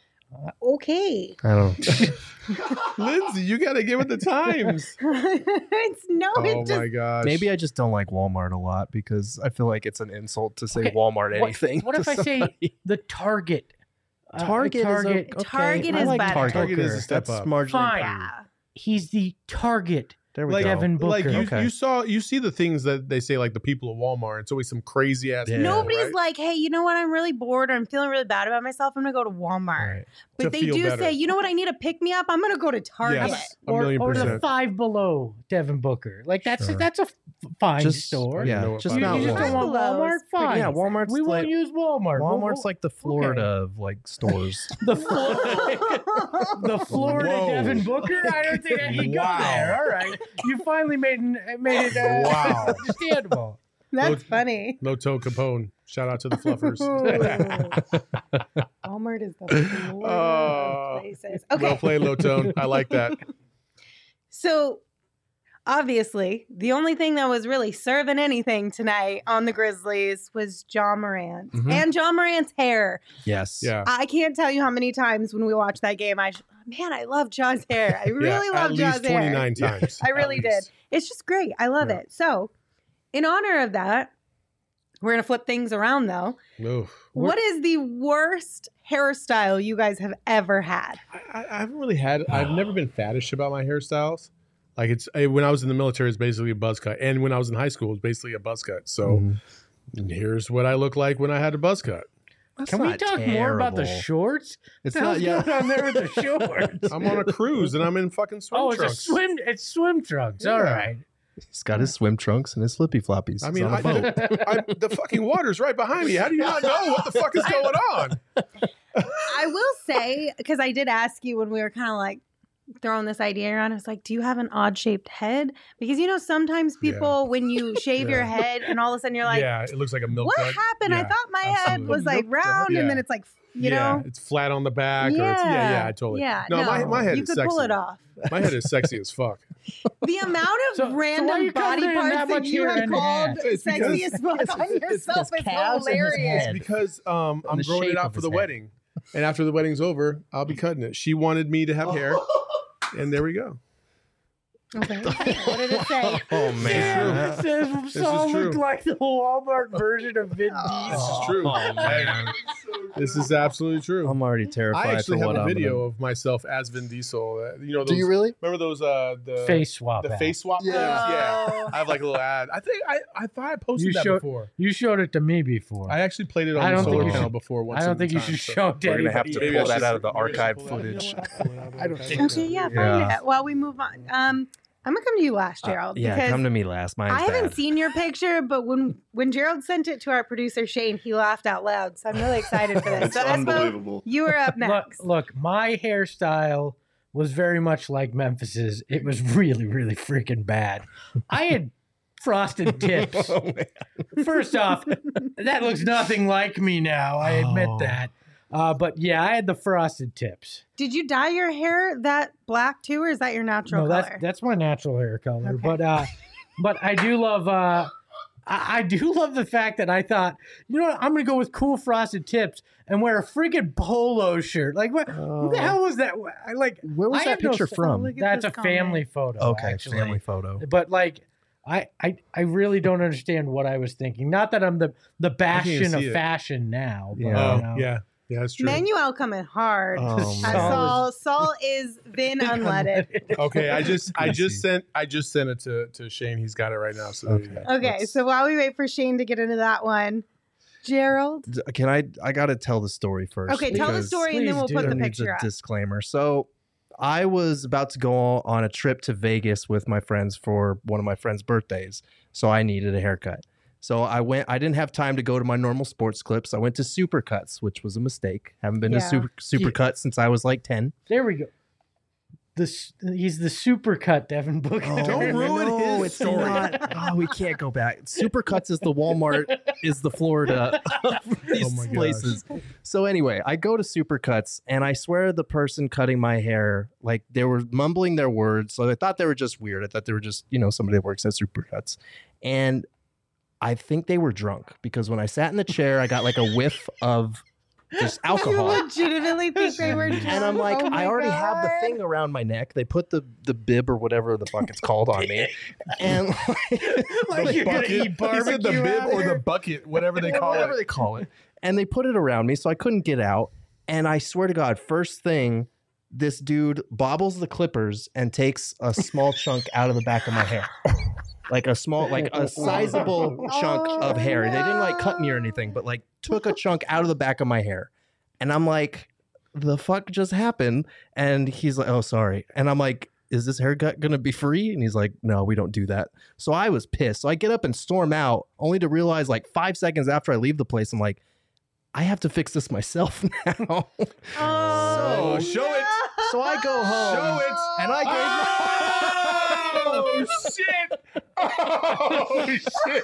Speaker 1: Okay.
Speaker 4: I don't.
Speaker 2: Lindsay, you got to get with the times.
Speaker 1: It's no,
Speaker 2: Oh
Speaker 1: it just
Speaker 2: my gosh.
Speaker 4: Maybe I just don't like Walmart a lot because I feel like it's an insult to say
Speaker 3: Okay,
Speaker 4: Walmart anything.
Speaker 3: What if
Speaker 4: to
Speaker 3: I say
Speaker 4: somebody.
Speaker 3: the Target?
Speaker 4: Target?
Speaker 3: Target.
Speaker 4: Is
Speaker 1: Target
Speaker 4: I
Speaker 1: is
Speaker 4: like
Speaker 1: better.
Speaker 2: Target is a step
Speaker 4: That's
Speaker 2: up.
Speaker 4: marginally
Speaker 3: Fine.
Speaker 4: improved.
Speaker 1: yeah.
Speaker 3: He's the Target.
Speaker 4: There we
Speaker 2: Like
Speaker 4: go.
Speaker 3: Devin Booker.
Speaker 2: Like you,
Speaker 4: Okay.
Speaker 2: you see the things that they say, like the people at Walmart. It's always some crazy ass.
Speaker 4: Yeah.
Speaker 2: people,
Speaker 1: Nobody's
Speaker 2: right?
Speaker 1: like, hey, you know what? I'm really bored or I'm feeling really bad about myself. I'm going to go to Walmart.
Speaker 4: Right.
Speaker 1: But
Speaker 2: To
Speaker 1: they
Speaker 2: feel
Speaker 1: do
Speaker 2: better.
Speaker 1: say, you know what? I need a pick me up. I'm going to go to Target.
Speaker 2: Yes, a
Speaker 3: or,
Speaker 2: million
Speaker 3: or the
Speaker 2: percent.
Speaker 3: Five Below Devin Booker. Like that's
Speaker 4: Sure.
Speaker 3: a fine
Speaker 4: Just
Speaker 3: store.
Speaker 2: I
Speaker 4: yeah,
Speaker 2: know what
Speaker 4: just
Speaker 2: Five
Speaker 3: You,
Speaker 4: not
Speaker 3: you just
Speaker 2: Below
Speaker 3: don't
Speaker 2: is.
Speaker 3: want
Speaker 1: Five Below
Speaker 3: Walmart?
Speaker 1: is pretty
Speaker 3: Fine.
Speaker 4: Yeah, Walmart's
Speaker 3: We won't
Speaker 4: like
Speaker 3: use Walmart.
Speaker 4: Walmart's like the Florida of like stores.
Speaker 3: the the Florida
Speaker 2: Whoa.
Speaker 3: Devin Booker. I don't think I can
Speaker 2: Wow.
Speaker 3: go there. All right, you finally made it
Speaker 2: Wow.
Speaker 3: understandable.
Speaker 1: That's
Speaker 2: Low-
Speaker 1: funny.
Speaker 2: Loto Capone. Shout out to the Fluffers.
Speaker 1: Walmart is the Florida
Speaker 2: Oh,
Speaker 1: Okay.
Speaker 2: Well played, Low Tone. I like that.
Speaker 1: So, obviously, the only thing that was really serving anything tonight on the Grizzlies was John Morant
Speaker 4: Mhm.
Speaker 1: and John Morant's hair.
Speaker 4: Yes.
Speaker 2: Yeah.
Speaker 1: I can't tell you how many times when we watched that game, man, I love John's hair. I really
Speaker 2: yeah,
Speaker 1: love John's
Speaker 2: at least 29
Speaker 1: hair.
Speaker 2: times.
Speaker 1: I really
Speaker 2: At
Speaker 1: did.
Speaker 2: least.
Speaker 1: It's just great. I love
Speaker 2: Yeah.
Speaker 1: it. So, in honor of that, we're going to flip things around though.
Speaker 2: Oof.
Speaker 1: What is the worst hairstyle you guys have ever had?
Speaker 2: I haven't really had. I've never been faddish about my hairstyles. Like when I was in the military, it's basically a buzz cut, and when I was in high school, it was basically a buzz cut. So here's what I look like when I had a buzz cut.
Speaker 4: That's
Speaker 3: Can we
Speaker 4: not
Speaker 3: talk more about the
Speaker 4: terrible.
Speaker 3: shorts?
Speaker 4: It's
Speaker 3: What the
Speaker 4: not.
Speaker 3: hell's
Speaker 4: Yeah.
Speaker 3: going on there with the shorts?
Speaker 2: I'm on a cruise and I'm in fucking swim
Speaker 3: Oh, it's
Speaker 2: trunks.
Speaker 3: it's swim trunks. All
Speaker 2: Yeah.
Speaker 3: right.
Speaker 4: He's got his swim trunks and his flippy floppies.
Speaker 2: I
Speaker 4: He's
Speaker 2: mean,
Speaker 4: on a boat.
Speaker 2: the fucking water's right behind me. How do you not know what the fuck is going on?
Speaker 1: I will say, because I did ask you when we were kind of like throwing this idea around, I was like, do you have an odd shaped head? Because, sometimes people, when you shave your head and all of a sudden you're like,
Speaker 2: Yeah, it looks like a milk
Speaker 1: what
Speaker 2: dud.
Speaker 1: happened? I
Speaker 2: Yeah,
Speaker 1: thought my head
Speaker 2: absolutely.
Speaker 1: was like round
Speaker 2: Yeah.
Speaker 1: and then it's like, you
Speaker 2: yeah,
Speaker 1: know?
Speaker 2: it's flat on the back. Or it's, yeah, I totally.
Speaker 1: Yeah,
Speaker 2: No, my head
Speaker 1: you
Speaker 2: is
Speaker 1: could
Speaker 2: sexy.
Speaker 1: pull it off.
Speaker 2: My head is sexy as fuck.
Speaker 1: The amount of
Speaker 3: So why are
Speaker 1: random
Speaker 3: you
Speaker 1: body
Speaker 3: covering
Speaker 1: parts
Speaker 3: that
Speaker 1: that
Speaker 3: much
Speaker 1: you
Speaker 3: hair
Speaker 1: have
Speaker 3: in
Speaker 1: called
Speaker 3: half?
Speaker 2: It's
Speaker 1: sexy
Speaker 2: because-
Speaker 1: as fuck on yourself
Speaker 4: his
Speaker 1: is
Speaker 4: calves and his
Speaker 1: hilarious.
Speaker 4: head.
Speaker 2: Because I'm
Speaker 4: the
Speaker 2: growing
Speaker 4: shape
Speaker 2: it out
Speaker 4: of
Speaker 2: for
Speaker 4: his
Speaker 2: the
Speaker 4: head.
Speaker 2: wedding, and after the wedding's over, I'll be cutting it. She wanted me to have hair, and there we go.
Speaker 1: Okay. What did it say?
Speaker 4: Oh man.
Speaker 3: It says
Speaker 2: This is
Speaker 3: Saul
Speaker 2: true.
Speaker 3: looked like the Walmart version of Vin
Speaker 2: This
Speaker 3: Diesel.
Speaker 2: is true.
Speaker 4: Oh, man.
Speaker 2: This is absolutely true.
Speaker 4: I'm already terrified
Speaker 2: I actually
Speaker 4: for
Speaker 2: have
Speaker 4: what
Speaker 2: a
Speaker 4: I'm
Speaker 2: video
Speaker 4: gonna...
Speaker 2: of myself as Vin Diesel. Those,
Speaker 4: Do you really?
Speaker 2: remember those the
Speaker 3: Face swap.
Speaker 2: the
Speaker 3: app.
Speaker 2: face swap?
Speaker 5: Yeah.
Speaker 2: things? Yeah.
Speaker 1: Oh.
Speaker 2: I have like a little ad. I think I thought I posted
Speaker 3: You
Speaker 2: that
Speaker 3: showed-
Speaker 2: before.
Speaker 3: You showed it to me before.
Speaker 2: I actually played it
Speaker 3: I
Speaker 2: on the
Speaker 3: don't think
Speaker 2: solar
Speaker 4: you
Speaker 2: panel
Speaker 4: should-
Speaker 2: before. Once
Speaker 3: I don't
Speaker 2: in
Speaker 3: think you
Speaker 2: time,
Speaker 3: should
Speaker 2: so-
Speaker 3: show it to
Speaker 4: We're gonna have
Speaker 3: anybody.
Speaker 4: to
Speaker 2: Maybe
Speaker 4: pull
Speaker 2: I
Speaker 4: that
Speaker 2: should-
Speaker 4: out of the
Speaker 2: maybe I should
Speaker 4: archive
Speaker 2: pull that.
Speaker 4: footage.
Speaker 3: I don't think
Speaker 1: Okay, yeah, find it while we move on. I'm gonna come to you last, Gerald.
Speaker 4: Yeah,
Speaker 1: because
Speaker 4: come to me last. Mine's
Speaker 1: I haven't
Speaker 4: bad.
Speaker 1: seen your picture, but when Gerald sent it to our producer Shane, he laughed out loud. So I'm really excited for this.
Speaker 5: It's
Speaker 1: So Espo,
Speaker 5: unbelievable.
Speaker 1: you were up next.
Speaker 3: Look, my hairstyle was very much like Memphis's. It was really, really freaking bad. I had frosted tips.
Speaker 4: Oh, man.
Speaker 3: First off, that looks nothing like me now. I admit
Speaker 4: Oh.
Speaker 3: that. But yeah, I had the frosted tips.
Speaker 1: Did you dye your hair that black too, or is that your natural
Speaker 3: No,
Speaker 1: color?
Speaker 3: that's my natural hair color.
Speaker 1: Okay.
Speaker 3: But I do love I do love the fact that I thought, you know what, I'm gonna go with cool frosted tips and wear a freaking polo shirt. Like what? Who the hell was that? I like.
Speaker 4: Where was
Speaker 3: I
Speaker 4: that
Speaker 3: have no
Speaker 4: picture
Speaker 3: st-
Speaker 4: from?
Speaker 1: Look at
Speaker 3: That's a
Speaker 1: this comment.
Speaker 3: family photo.
Speaker 4: Okay,
Speaker 3: actually.
Speaker 4: family photo.
Speaker 3: But like, I really don't understand what I was thinking. Not that I'm the bastion of
Speaker 2: see it.
Speaker 3: fashion now. But,
Speaker 4: Yeah.
Speaker 2: Oh,
Speaker 3: you know.
Speaker 2: yeah, that's true.
Speaker 1: Manuel coming hard.
Speaker 4: Oh,
Speaker 3: man.
Speaker 1: Saul is Vin unleaded.
Speaker 2: Okay, I just
Speaker 4: see.
Speaker 2: sent it to Shane. He's got it right now. So there you go.
Speaker 1: Okay, so while we wait for Shane to get into that one, Gerald.
Speaker 4: Can I gotta tell the story first.
Speaker 1: Okay, tell the
Speaker 4: because
Speaker 1: story and then
Speaker 3: please
Speaker 1: we'll
Speaker 3: do.
Speaker 1: put
Speaker 4: there
Speaker 1: the
Speaker 4: needs
Speaker 1: picture
Speaker 4: a
Speaker 1: up.
Speaker 4: disclaimer. So I was about to go on a trip to Vegas with my friends for one of my friends' birthdays. So I needed a haircut. So I didn't have time to go to my normal sports clips. I went to Supercuts, which was a mistake. Haven't been
Speaker 1: Yeah.
Speaker 4: to Supercuts since I was like 10.
Speaker 3: There we go. He's the supercut Devin Booker.
Speaker 2: Don't ruin his
Speaker 4: it's
Speaker 2: story.
Speaker 4: not. Oh, we can't go back. Supercuts is the Walmart, is the Florida of these
Speaker 2: Oh my gosh.
Speaker 4: places. So anyway, I go to Supercuts, and I swear the person cutting my hair, like they were mumbling their words. So I thought they were just weird. I thought they were just, somebody that works at Supercuts. And I think they were drunk because when I sat in the chair, I got like a whiff of just
Speaker 1: You
Speaker 4: alcohol.
Speaker 1: legitimately think they were drunk?
Speaker 4: And I'm like,
Speaker 1: Oh my
Speaker 4: I already have the
Speaker 1: God.
Speaker 4: thing around my neck. They put the bib or whatever the fuck it's called on me. And
Speaker 3: Like you're gonna eat
Speaker 2: He said the
Speaker 3: barbecue
Speaker 2: bib
Speaker 3: out
Speaker 2: or
Speaker 3: there?
Speaker 2: the bucket, whatever they call
Speaker 4: whatever
Speaker 2: it.
Speaker 4: they call it. And they put it around me, so I couldn't get out. And I swear to God, first thing, this dude bobbles the clippers and takes a small chunk out of the back of my hair. Like a sizable chunk
Speaker 1: Oh,
Speaker 4: of hair. They didn't like cut me or
Speaker 1: no.
Speaker 4: anything, but like took a chunk out of the back of my hair. And I'm like, the fuck just happened? And he's like, oh, sorry. And I'm like, is this haircut going to be free? And he's like, no, we don't do that. So I was pissed. So I get up and storm out only to realize like 5 seconds after I leave the place, I'm like, I have to fix this myself now.
Speaker 1: Oh,
Speaker 2: show it.
Speaker 4: So I go home.
Speaker 2: Show it.
Speaker 4: And I gave
Speaker 2: Oh shit! Oh shit!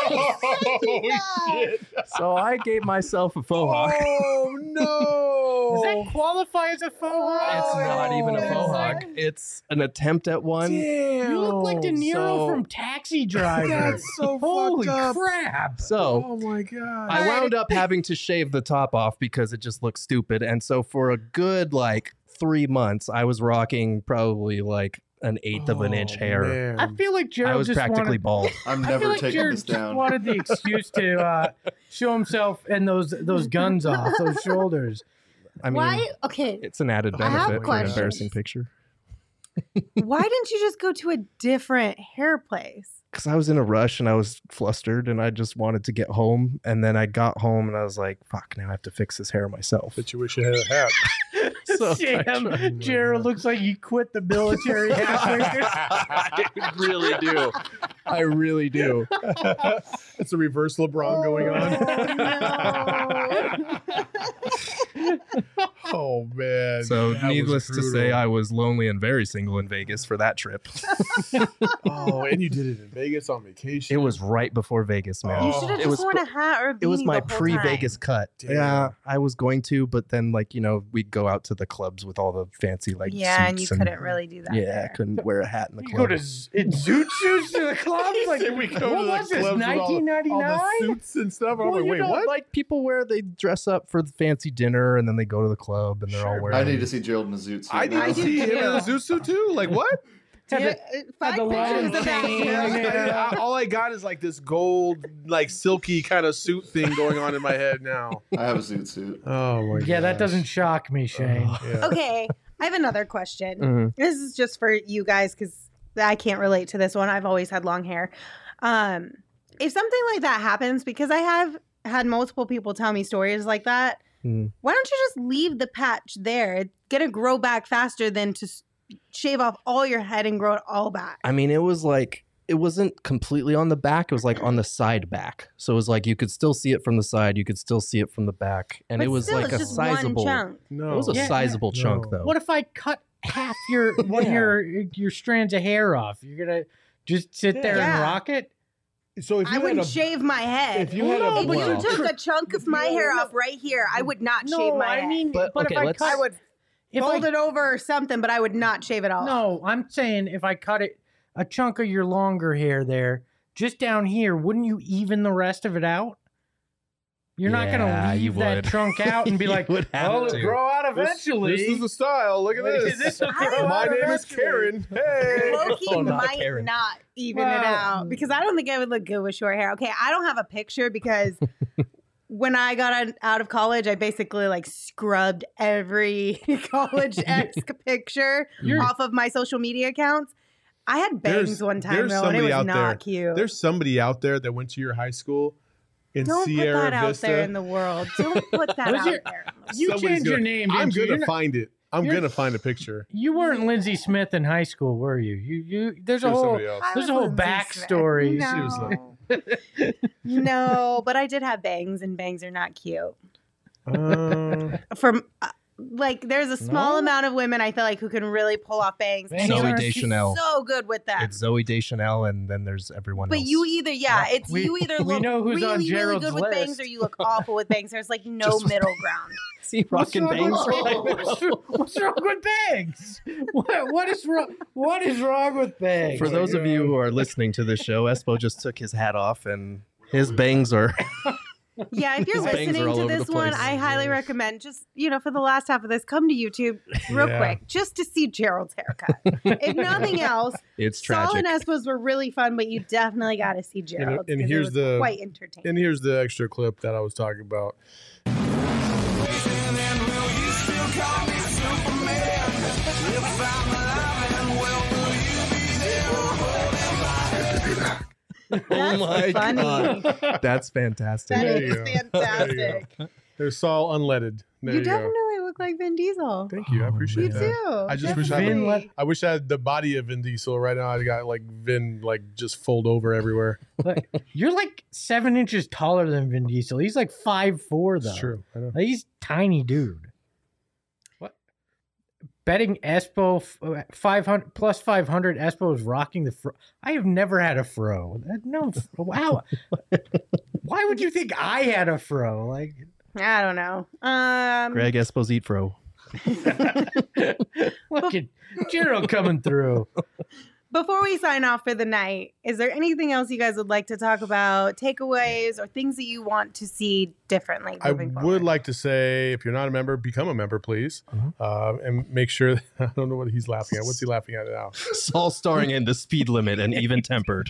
Speaker 2: Oh shit!
Speaker 4: So I gave myself a faux hawk.
Speaker 2: Oh no!
Speaker 3: Does that qualify as a faux hawk?
Speaker 4: It's not even a faux hawk. It's an attempt at one.
Speaker 2: Damn.
Speaker 3: You look like De Niro
Speaker 4: So-
Speaker 3: from Taxi Driver.
Speaker 2: That's so
Speaker 3: Holy
Speaker 2: fucked up.
Speaker 3: crap.
Speaker 4: So
Speaker 2: Oh my god.
Speaker 4: I wound up having to shave the top off because it just looked stupid. And so for a good 3 months, I was rocking probably an eighth of an inch hair.
Speaker 2: Man.
Speaker 3: I feel like Gerald
Speaker 4: I was
Speaker 3: just
Speaker 4: practically
Speaker 3: wanted,
Speaker 4: bald.
Speaker 5: I'm
Speaker 3: I feel
Speaker 5: never
Speaker 3: like
Speaker 5: taking
Speaker 3: Jared
Speaker 5: this
Speaker 3: just
Speaker 5: down.
Speaker 3: wanted the excuse to show himself and those guns off, those shoulders.
Speaker 4: I mean,
Speaker 1: Why? Okay.
Speaker 4: it's an added
Speaker 1: I have
Speaker 4: benefit for an
Speaker 1: questions.
Speaker 4: embarrassing picture.
Speaker 1: Why didn't you just go to a different hair place?
Speaker 4: Because I was in a rush and I was flustered and I just wanted to get home. And then I got home and I was like, fuck, now I have to fix this hair myself.
Speaker 2: Bet you wish you had a hat.
Speaker 4: So I
Speaker 3: Damn,
Speaker 2: tried.
Speaker 3: Gerald looks like he quit the military halfway through.
Speaker 4: I really do. I really do.
Speaker 2: It's a reverse LeBron going on. Oh man.
Speaker 4: So
Speaker 2: That was
Speaker 4: needless to say,
Speaker 2: brutal.
Speaker 4: I was lonely and very single in Vegas for that trip.
Speaker 2: Oh, and you did it in Vegas on vacation.
Speaker 4: It was right before Vegas, man.
Speaker 1: You should have
Speaker 4: It
Speaker 1: just
Speaker 4: was
Speaker 1: worn a hat or a beanie
Speaker 4: It was my
Speaker 1: the whole
Speaker 4: pre-Vegas
Speaker 1: time.
Speaker 4: cut.
Speaker 2: Damn.
Speaker 4: Yeah, I was going to, but then we'd go out to the clubs with all the fancy
Speaker 1: Yeah, and you
Speaker 4: suits
Speaker 1: couldn't really do that.
Speaker 4: Yeah, I
Speaker 1: there.
Speaker 4: couldn't wear a hat in the
Speaker 3: You go
Speaker 4: club.
Speaker 3: to in zoot suits to the club? Like,
Speaker 2: Said we go
Speaker 3: what
Speaker 2: to the
Speaker 3: was this,
Speaker 2: clubs with all the
Speaker 3: 1999?
Speaker 2: suits and stuff. I'm
Speaker 4: Well,
Speaker 2: like,
Speaker 4: you
Speaker 2: wait,
Speaker 4: know,
Speaker 2: what?
Speaker 4: like people they dress up for the fancy dinner and then they go to the club and they're all
Speaker 2: Sure.
Speaker 4: wearing.
Speaker 5: I need to see Gerald in a zoot suit.
Speaker 2: I need
Speaker 5: now.
Speaker 2: to see him in a zoot suit too. Like what?
Speaker 3: Had
Speaker 1: Yeah,
Speaker 3: the-
Speaker 1: find
Speaker 3: the
Speaker 1: pictures
Speaker 3: long
Speaker 1: of that.
Speaker 3: chain.
Speaker 1: Yeah.
Speaker 2: All I got is this gold, silky kind of suit thing going on in my head now.
Speaker 5: I have a zoot suit.
Speaker 2: Oh my god.
Speaker 3: Yeah, that doesn't shock me, Shane.
Speaker 2: Yeah.
Speaker 1: Okay, I have another question.
Speaker 4: Mhm.
Speaker 1: This is just for you guys because I can't relate to this one. I've always had long hair. If something like that happens, because I have had multiple people tell me stories like that,
Speaker 4: Hmm.
Speaker 1: why don't you just leave the patch there? It's gonna grow back faster than to shave off all your head and grow it all back.
Speaker 4: I mean, it was it wasn't completely on the back. It was on the side back. So it was you could still see it from the side. You could still see it from the back. And
Speaker 1: But
Speaker 4: it was
Speaker 1: still,
Speaker 4: a
Speaker 1: it's just
Speaker 4: sizable.
Speaker 1: one chunk.
Speaker 2: No.
Speaker 4: It was a
Speaker 3: Yeah,
Speaker 4: sizable
Speaker 2: yeah.
Speaker 4: chunk
Speaker 2: No.
Speaker 4: though.
Speaker 3: What if I cut half one of your strands of hair off? You're gonna just sit there
Speaker 1: Yeah.
Speaker 3: and rock it?
Speaker 2: So if
Speaker 1: I
Speaker 2: you
Speaker 1: wouldn't
Speaker 2: had a,
Speaker 1: shave my head.
Speaker 2: if you had a,
Speaker 1: If
Speaker 4: Well-
Speaker 1: you took a chunk of my hair off right here, I would not shave my head.
Speaker 3: I mean,
Speaker 4: But,
Speaker 3: but
Speaker 4: okay,
Speaker 3: if I
Speaker 4: let's-
Speaker 3: cut,
Speaker 1: I would
Speaker 3: if
Speaker 1: fold
Speaker 3: I,
Speaker 1: it over or something, but I would not shave it all.
Speaker 3: no, I'm saying if I cut it a chunk of your longer hair there, just down here, wouldn't you even the rest of it out? You're not
Speaker 4: Yeah,
Speaker 3: gonna
Speaker 4: you
Speaker 3: leave that
Speaker 4: would.
Speaker 3: trunk out and be
Speaker 4: You
Speaker 3: like,
Speaker 4: would have
Speaker 3: "Oh,
Speaker 4: to.
Speaker 3: it'll grow out eventually."
Speaker 2: This is the style. Look at
Speaker 3: Is
Speaker 2: this.
Speaker 3: this will grow
Speaker 2: My
Speaker 3: out
Speaker 2: name is
Speaker 3: eventually.
Speaker 2: Karen. Hey.
Speaker 1: Loki
Speaker 4: Oh, not
Speaker 1: might
Speaker 4: Karen.
Speaker 1: not even
Speaker 3: Well-
Speaker 1: it out because I don't think I would look good with short hair. Okay, I don't have a picture because when I got out of college, I basically scrubbed every college-esque picture
Speaker 3: You're-
Speaker 1: off of my social media accounts. I had bangs one time
Speaker 2: there's
Speaker 1: though, and it
Speaker 2: somebody
Speaker 1: was
Speaker 2: out
Speaker 1: not
Speaker 2: there.
Speaker 1: cute.
Speaker 2: There's somebody out there that went to your high school in
Speaker 1: Don't
Speaker 2: Sierra
Speaker 1: put that
Speaker 2: Vista.
Speaker 1: out there in the world. Don't put that
Speaker 3: Was
Speaker 1: out
Speaker 3: your-
Speaker 1: there.
Speaker 3: You
Speaker 2: Somebody's
Speaker 3: changed your
Speaker 2: gonna-
Speaker 3: name,
Speaker 2: I'm
Speaker 3: didn't you?
Speaker 2: gonna
Speaker 3: You're not-
Speaker 2: find it. I'm
Speaker 3: you're-
Speaker 2: gonna find a picture.
Speaker 3: You weren't Lindsay Smith in high school, were you? You there's a
Speaker 2: It was
Speaker 3: whole
Speaker 2: somebody else.
Speaker 1: I
Speaker 3: there's a
Speaker 1: was
Speaker 3: whole
Speaker 1: Lindsay
Speaker 3: backstory.
Speaker 1: Smith.
Speaker 2: She was
Speaker 1: No. No, but I did have bangs, and bangs are not cute. From there's a small
Speaker 3: No?
Speaker 1: amount of women I feel like who can really pull off bangs.
Speaker 3: Bangs
Speaker 1: And you
Speaker 4: Zooey
Speaker 1: are
Speaker 4: Deschanel.
Speaker 1: so good with that.
Speaker 4: It's Zoe Deschanel, and then there's everyone
Speaker 1: But
Speaker 4: else.
Speaker 1: you either, it's
Speaker 3: We-
Speaker 1: you either
Speaker 3: we
Speaker 1: look
Speaker 3: know who's on
Speaker 1: really, really
Speaker 3: Gerald's
Speaker 1: good with bangs
Speaker 3: list.
Speaker 1: or you look awful with bangs. There's no
Speaker 4: Just-
Speaker 1: middle ground.
Speaker 4: see rocking
Speaker 3: What's
Speaker 4: bangs.
Speaker 3: wrong with- What's wrong with bangs? What is wrong? What is wrong with bangs?
Speaker 4: For those of you who are listening to this show, Espo just took his hat off, and his bangs are.
Speaker 1: Yeah, if you're
Speaker 4: His bangs
Speaker 1: listening
Speaker 4: are all
Speaker 1: to
Speaker 4: over
Speaker 1: this
Speaker 4: the
Speaker 1: one,
Speaker 4: place.
Speaker 1: I highly recommend just, for the last half of this, come to YouTube real
Speaker 2: Yeah.
Speaker 1: quick just to see Gerald's haircut. If nothing else,
Speaker 4: It's
Speaker 1: Saul
Speaker 4: tragic.
Speaker 1: and Espo's were really fun, but you definitely got to see Gerald's.
Speaker 2: and
Speaker 1: 'cause it
Speaker 2: here's
Speaker 1: was
Speaker 2: the-
Speaker 1: quite entertaining.
Speaker 2: And here's the extra clip that I was talking about.
Speaker 1: That's
Speaker 4: my
Speaker 1: funny.
Speaker 4: God. That's fantastic.
Speaker 1: That
Speaker 2: There you
Speaker 1: is
Speaker 2: go. There you
Speaker 1: fantastic.
Speaker 2: There's Saul unleaded. There
Speaker 1: You
Speaker 2: you go.
Speaker 1: definitely look like Vin Diesel.
Speaker 2: Thank you. I
Speaker 3: Oh,
Speaker 2: appreciate
Speaker 1: You
Speaker 2: that.
Speaker 1: too.
Speaker 2: I just wish I had
Speaker 3: Vin
Speaker 1: Definitely.
Speaker 3: let-
Speaker 2: I wish I had the body of Vin Diesel right now. I got Vin just fold over everywhere.
Speaker 3: You're 7 inches taller than Vin Diesel. He's 5'4" though.
Speaker 2: It's true. I know.
Speaker 3: He's tiny dude. What? Betting Espo 500 plus 500. Espo is rocking the fro. I have never had a fro. No, wow. Why would you think I had a fro?
Speaker 1: I don't know.
Speaker 4: Greg Esposito.
Speaker 3: Look at Gerald coming through.
Speaker 1: Before we sign off for the night, is there anything else you guys would like to talk about, takeaways, or things that you want to see differently
Speaker 2: I
Speaker 1: moving
Speaker 2: would
Speaker 1: forward?
Speaker 2: like to say, if you're not a member, become a member, please. And make sure that, I don't know what he's laughing at. What's he laughing at now?
Speaker 4: Saul starring in The Speed Limit and Even Tempered.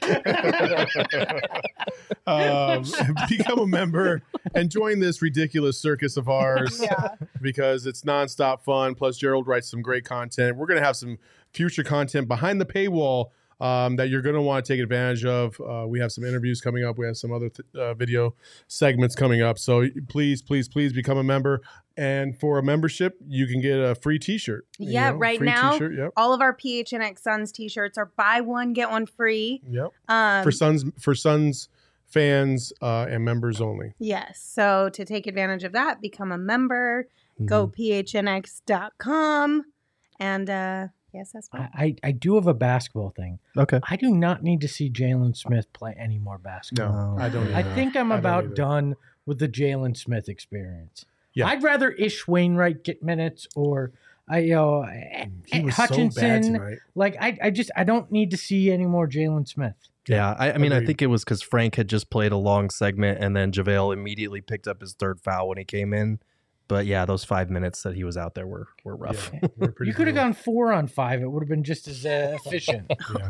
Speaker 2: Become a member and join this ridiculous circus of ours because it's nonstop fun. Plus, Gerald writes some great content. We're going to have some future content behind the paywall that you're going to want to take advantage of. We have some interviews coming up. We have some other video segments coming up. So please, please, please become a member. And for a membership, you can get a free t-shirt.
Speaker 1: Yeah, right
Speaker 2: free
Speaker 1: now,
Speaker 2: t-shirt, yep.
Speaker 1: all of our PHNX Suns t-shirts are buy one, get one free.
Speaker 2: Yep. For Suns fans and members only.
Speaker 1: Yes. So to take advantage of that, become a member, go phnx.com. And yes, that's fine.
Speaker 3: I do have a basketball thing.
Speaker 4: Okay.
Speaker 3: I do not need to see Jalen Smith play any more basketball.
Speaker 2: No, I don't.
Speaker 3: I think I'm
Speaker 2: I don't
Speaker 3: about
Speaker 2: either.
Speaker 3: done with the Jalen Smith experience.
Speaker 2: Yeah.
Speaker 3: I'd rather Ish Wainwright get minutes or
Speaker 2: He was
Speaker 3: Hutchinson.
Speaker 2: so bad tonight.
Speaker 3: Like I don't need to see any more Jalen Smith.
Speaker 4: Yeah, I mean, I
Speaker 2: Agreed.
Speaker 4: think it was because Frank had just played a long segment, and then JaVale immediately picked up his third foul when he came in. But yeah, those 5 minutes that he was out there were rough.
Speaker 2: Yeah, we're pretty
Speaker 3: You could have
Speaker 2: brutal.
Speaker 3: gone 4 on 5. It would have been just as efficient.
Speaker 2: Yeah.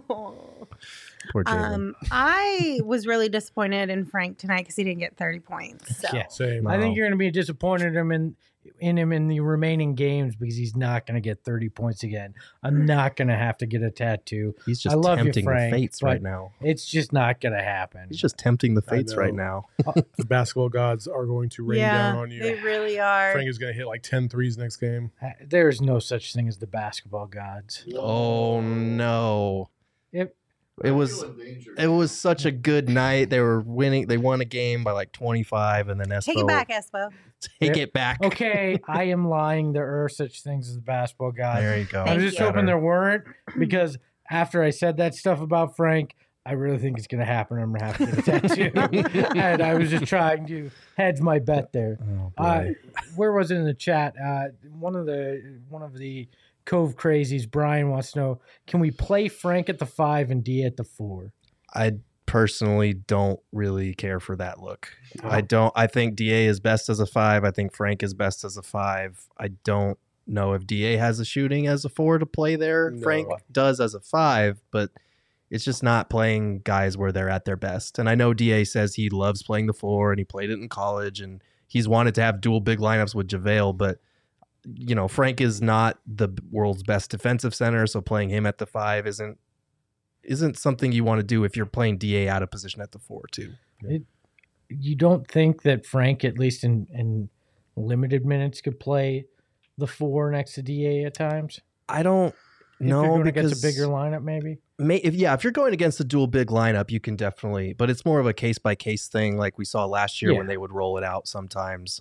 Speaker 4: Poor Jalen.
Speaker 1: I was really disappointed in Frank tonight because he didn't get 30 points. So.
Speaker 3: Yeah.
Speaker 2: Same.
Speaker 3: I think you're going to be disappointed in him in the remaining games because he's not going to get 30 points again. I'm not going to have to get a tattoo.
Speaker 4: He's
Speaker 3: I
Speaker 4: just
Speaker 3: love you,
Speaker 4: tempting
Speaker 3: Frank,
Speaker 4: the fates
Speaker 3: but
Speaker 4: right now.
Speaker 3: It's just not going to happen.
Speaker 4: He's just tempting the
Speaker 2: I
Speaker 4: fates
Speaker 2: know.
Speaker 4: right now.
Speaker 2: The basketball gods are going to rain down on you.
Speaker 1: They really are.
Speaker 2: Frank is going to hit like 10 threes next game.
Speaker 3: There is no such thing as the basketball gods.
Speaker 4: Oh no.
Speaker 3: If
Speaker 4: It was such a good night. They were winning. They won a game by like 25, and then Espo
Speaker 1: Take it back, Espo.
Speaker 4: Take it back.
Speaker 3: Okay, I am lying. There are such things as basketball gods.
Speaker 4: There you go.
Speaker 3: I was just
Speaker 1: you.
Speaker 3: hoping there weren't because after I said that stuff about Frank, I really think it's going to happen. I'm going to have to get a tattoo. And I was just trying to hedge my bet there.
Speaker 4: Oh, boy.
Speaker 3: Where was it in the chat? One of the Cove Crazies, Brian wants to know, can we play Frank at the 5 and D at the 4?
Speaker 4: I personally don't really care for that look. I think DA is best as a 5. I think Frank is best as a 5. I don't know if DA has a shooting as a 4 to play there.
Speaker 2: No.
Speaker 4: Frank does as a 5, but it's just not playing guys where they're at their best. And I know DA says he loves playing the 4 and he played it in college and he's wanted to have dual big lineups with JaVale, but you know, Frank is not the world's best defensive center, so playing him at the 5 isn't something you want to do if you're playing DA out of position at the 4 too.
Speaker 3: You don't think that Frank, at least in limited minutes, could play the 4 next to DA at times?
Speaker 4: I don't
Speaker 3: If you're
Speaker 4: know
Speaker 3: going
Speaker 4: because
Speaker 3: against a bigger lineup, maybe?
Speaker 4: if you're going against a dual big lineup, you can definitely, but it's more of a case by case thing, like we saw last year when they would roll it out sometimes.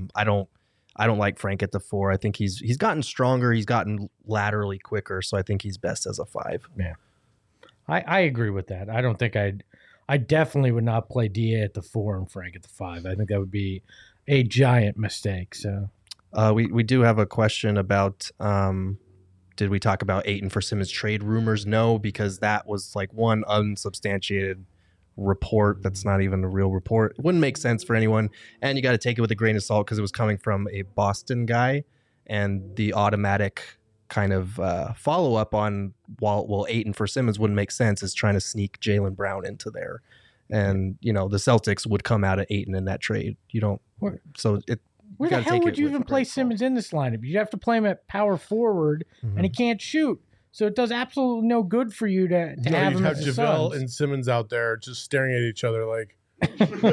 Speaker 4: I don't like Frank at the 4. I think he's gotten stronger. He's gotten laterally quicker, so I think he's best as a 5.
Speaker 3: Yeah. I agree with that. I don't think I definitely would not play DA at the 4 and Frank at the 5. I think that would be a giant mistake. So
Speaker 4: We do have a question about did we talk about Ayton for Simmons trade rumors? No, because that was like one unsubstantiated report that's not even a real report. It wouldn't make sense for anyone, and you got to take it with a grain of salt because it was coming from a Boston guy, and the automatic kind of follow up on well Ayton for Simmons wouldn't make sense is trying to sneak Jaylen Brown into there, and you know the Celtics would come out of Ayton in that trade. You don't, so it.
Speaker 3: where the hell would you even play Simmons in this lineup? You'd have to play him at power forward, and he can't shoot. So it does absolutely no good for you to have
Speaker 2: You'd
Speaker 3: him
Speaker 2: have
Speaker 3: as the
Speaker 2: JaVale
Speaker 3: Suns.
Speaker 2: and Simmons out there just staring at each other like, I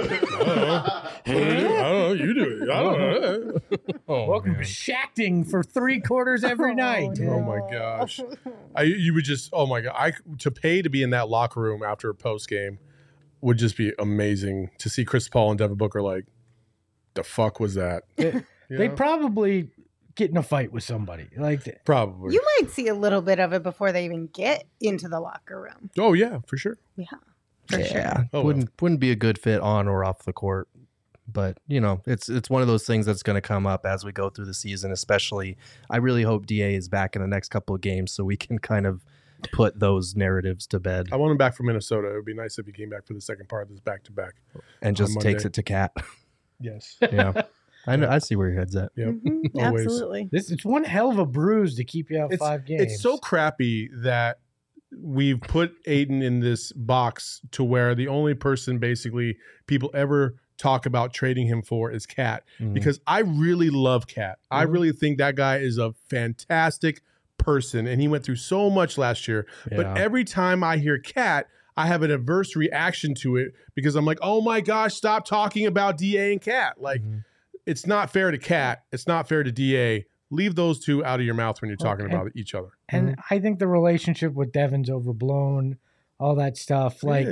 Speaker 2: don't know, you do it. I don't know. Oh,
Speaker 3: Welcome
Speaker 2: man.
Speaker 3: to Shacting for 3/4 every night.
Speaker 2: Oh my gosh. You would just, oh my God. To pay to be in that locker room after a post game would just be amazing to see Chris Paul and Devin Booker like, the fuck was that? You
Speaker 3: They'd
Speaker 2: know?
Speaker 3: probably get in a fight with somebody. Like
Speaker 2: Probably.
Speaker 1: You might see a little bit of it before they even get into the locker room.
Speaker 2: Oh, yeah, for sure.
Speaker 1: Yeah, for sure.
Speaker 4: Yeah,
Speaker 2: Oh,
Speaker 4: wouldn't be a good fit on or off the court. But it's one of those things that's going to come up as we go through the season. Especially, I really hope DA is back in the next couple of games so we can kind of put those narratives to bed.
Speaker 2: I want him back for Minnesota. It would be nice if he came back for the second part of this back-to-back.
Speaker 4: And just takes it to Cat.
Speaker 2: Yes.
Speaker 4: Yeah. I know. I see where your head's at.
Speaker 2: Yep.
Speaker 1: Mhm,
Speaker 2: Always.
Speaker 1: absolutely.
Speaker 3: It's one hell of a bruise to keep you out 5 games.
Speaker 2: It's so crappy that we've put Aiden in this box to where the only person basically people ever talk about trading him for is Cat, because I really love Cat. I really think that guy is a fantastic person, and he went through so much last year. But every time I hear Cat, I have an adverse reaction to it because I'm like, oh my gosh, stop talking about DA and Cat. Like, it's not fair to Cat. It's not fair to DA. Leave those two out of your mouth when you're talking about each other.
Speaker 3: And I think the relationship with Devin's overblown, all that stuff. Like,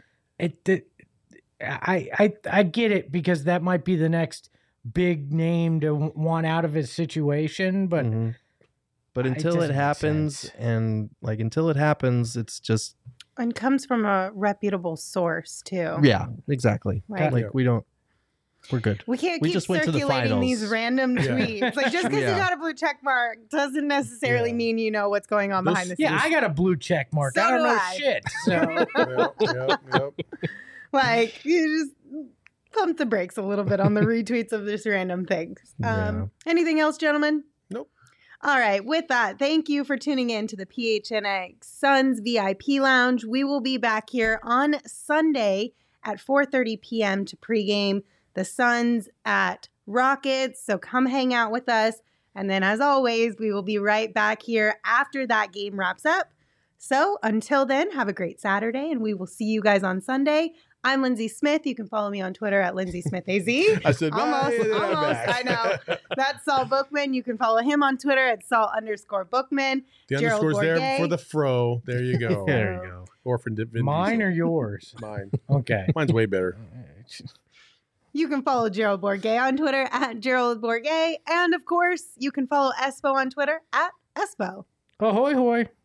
Speaker 3: I get it, because that might be the next big name to want out of his situation, but
Speaker 4: but until it happens, it's just
Speaker 1: And comes from a reputable source too.
Speaker 4: yeah, exactly.
Speaker 1: Right.
Speaker 4: Like we're good.
Speaker 1: We can't
Speaker 4: We
Speaker 1: keep
Speaker 4: just went to the
Speaker 1: circulating these
Speaker 4: finals.
Speaker 1: random tweets. Like, just because you got a blue check mark doesn't necessarily mean you know what's going on behind the scenes.
Speaker 3: yeah, I got a blue check mark.
Speaker 1: So
Speaker 3: I don't
Speaker 1: do
Speaker 3: know
Speaker 1: I.
Speaker 3: shit. So
Speaker 2: Yep.
Speaker 1: Like, you just pump the brakes a little bit on the retweets of this random things. Anything else, gentlemen?
Speaker 2: Nope.
Speaker 1: All right. With that, thank you for tuning in to the PHNX Suns VIP Lounge. We will be back here on Sunday at 4:30 p.m. to pregame the Suns at Rockets. So come hang out with us. And then, as always, we will be right back here after that game wraps up. So until then, have a great Saturday, and we will see you guys on Sunday. I'm Lindsay Smith. You can follow me on Twitter at LindsaySmithAZ.
Speaker 2: I said,
Speaker 1: almost.
Speaker 2: "Bye," and then I'm
Speaker 1: Almost.
Speaker 2: back.
Speaker 1: I know. That's Saul Bookman. You can follow him on Twitter at Saul_Bookman.
Speaker 2: The
Speaker 1: Gerald
Speaker 2: underscore's there
Speaker 1: Bourget.
Speaker 2: for the fro. There you go.
Speaker 4: There you go.
Speaker 2: Or for Vin
Speaker 3: mine
Speaker 2: Diesel.
Speaker 3: or yours?
Speaker 2: Mine.
Speaker 3: Okay.
Speaker 2: Mine's way better.
Speaker 1: You can follow Gerald Bourget on Twitter at Gerald Bourget. And, of course, you can follow Espo on Twitter at Espo.
Speaker 3: Ahoy, hoy.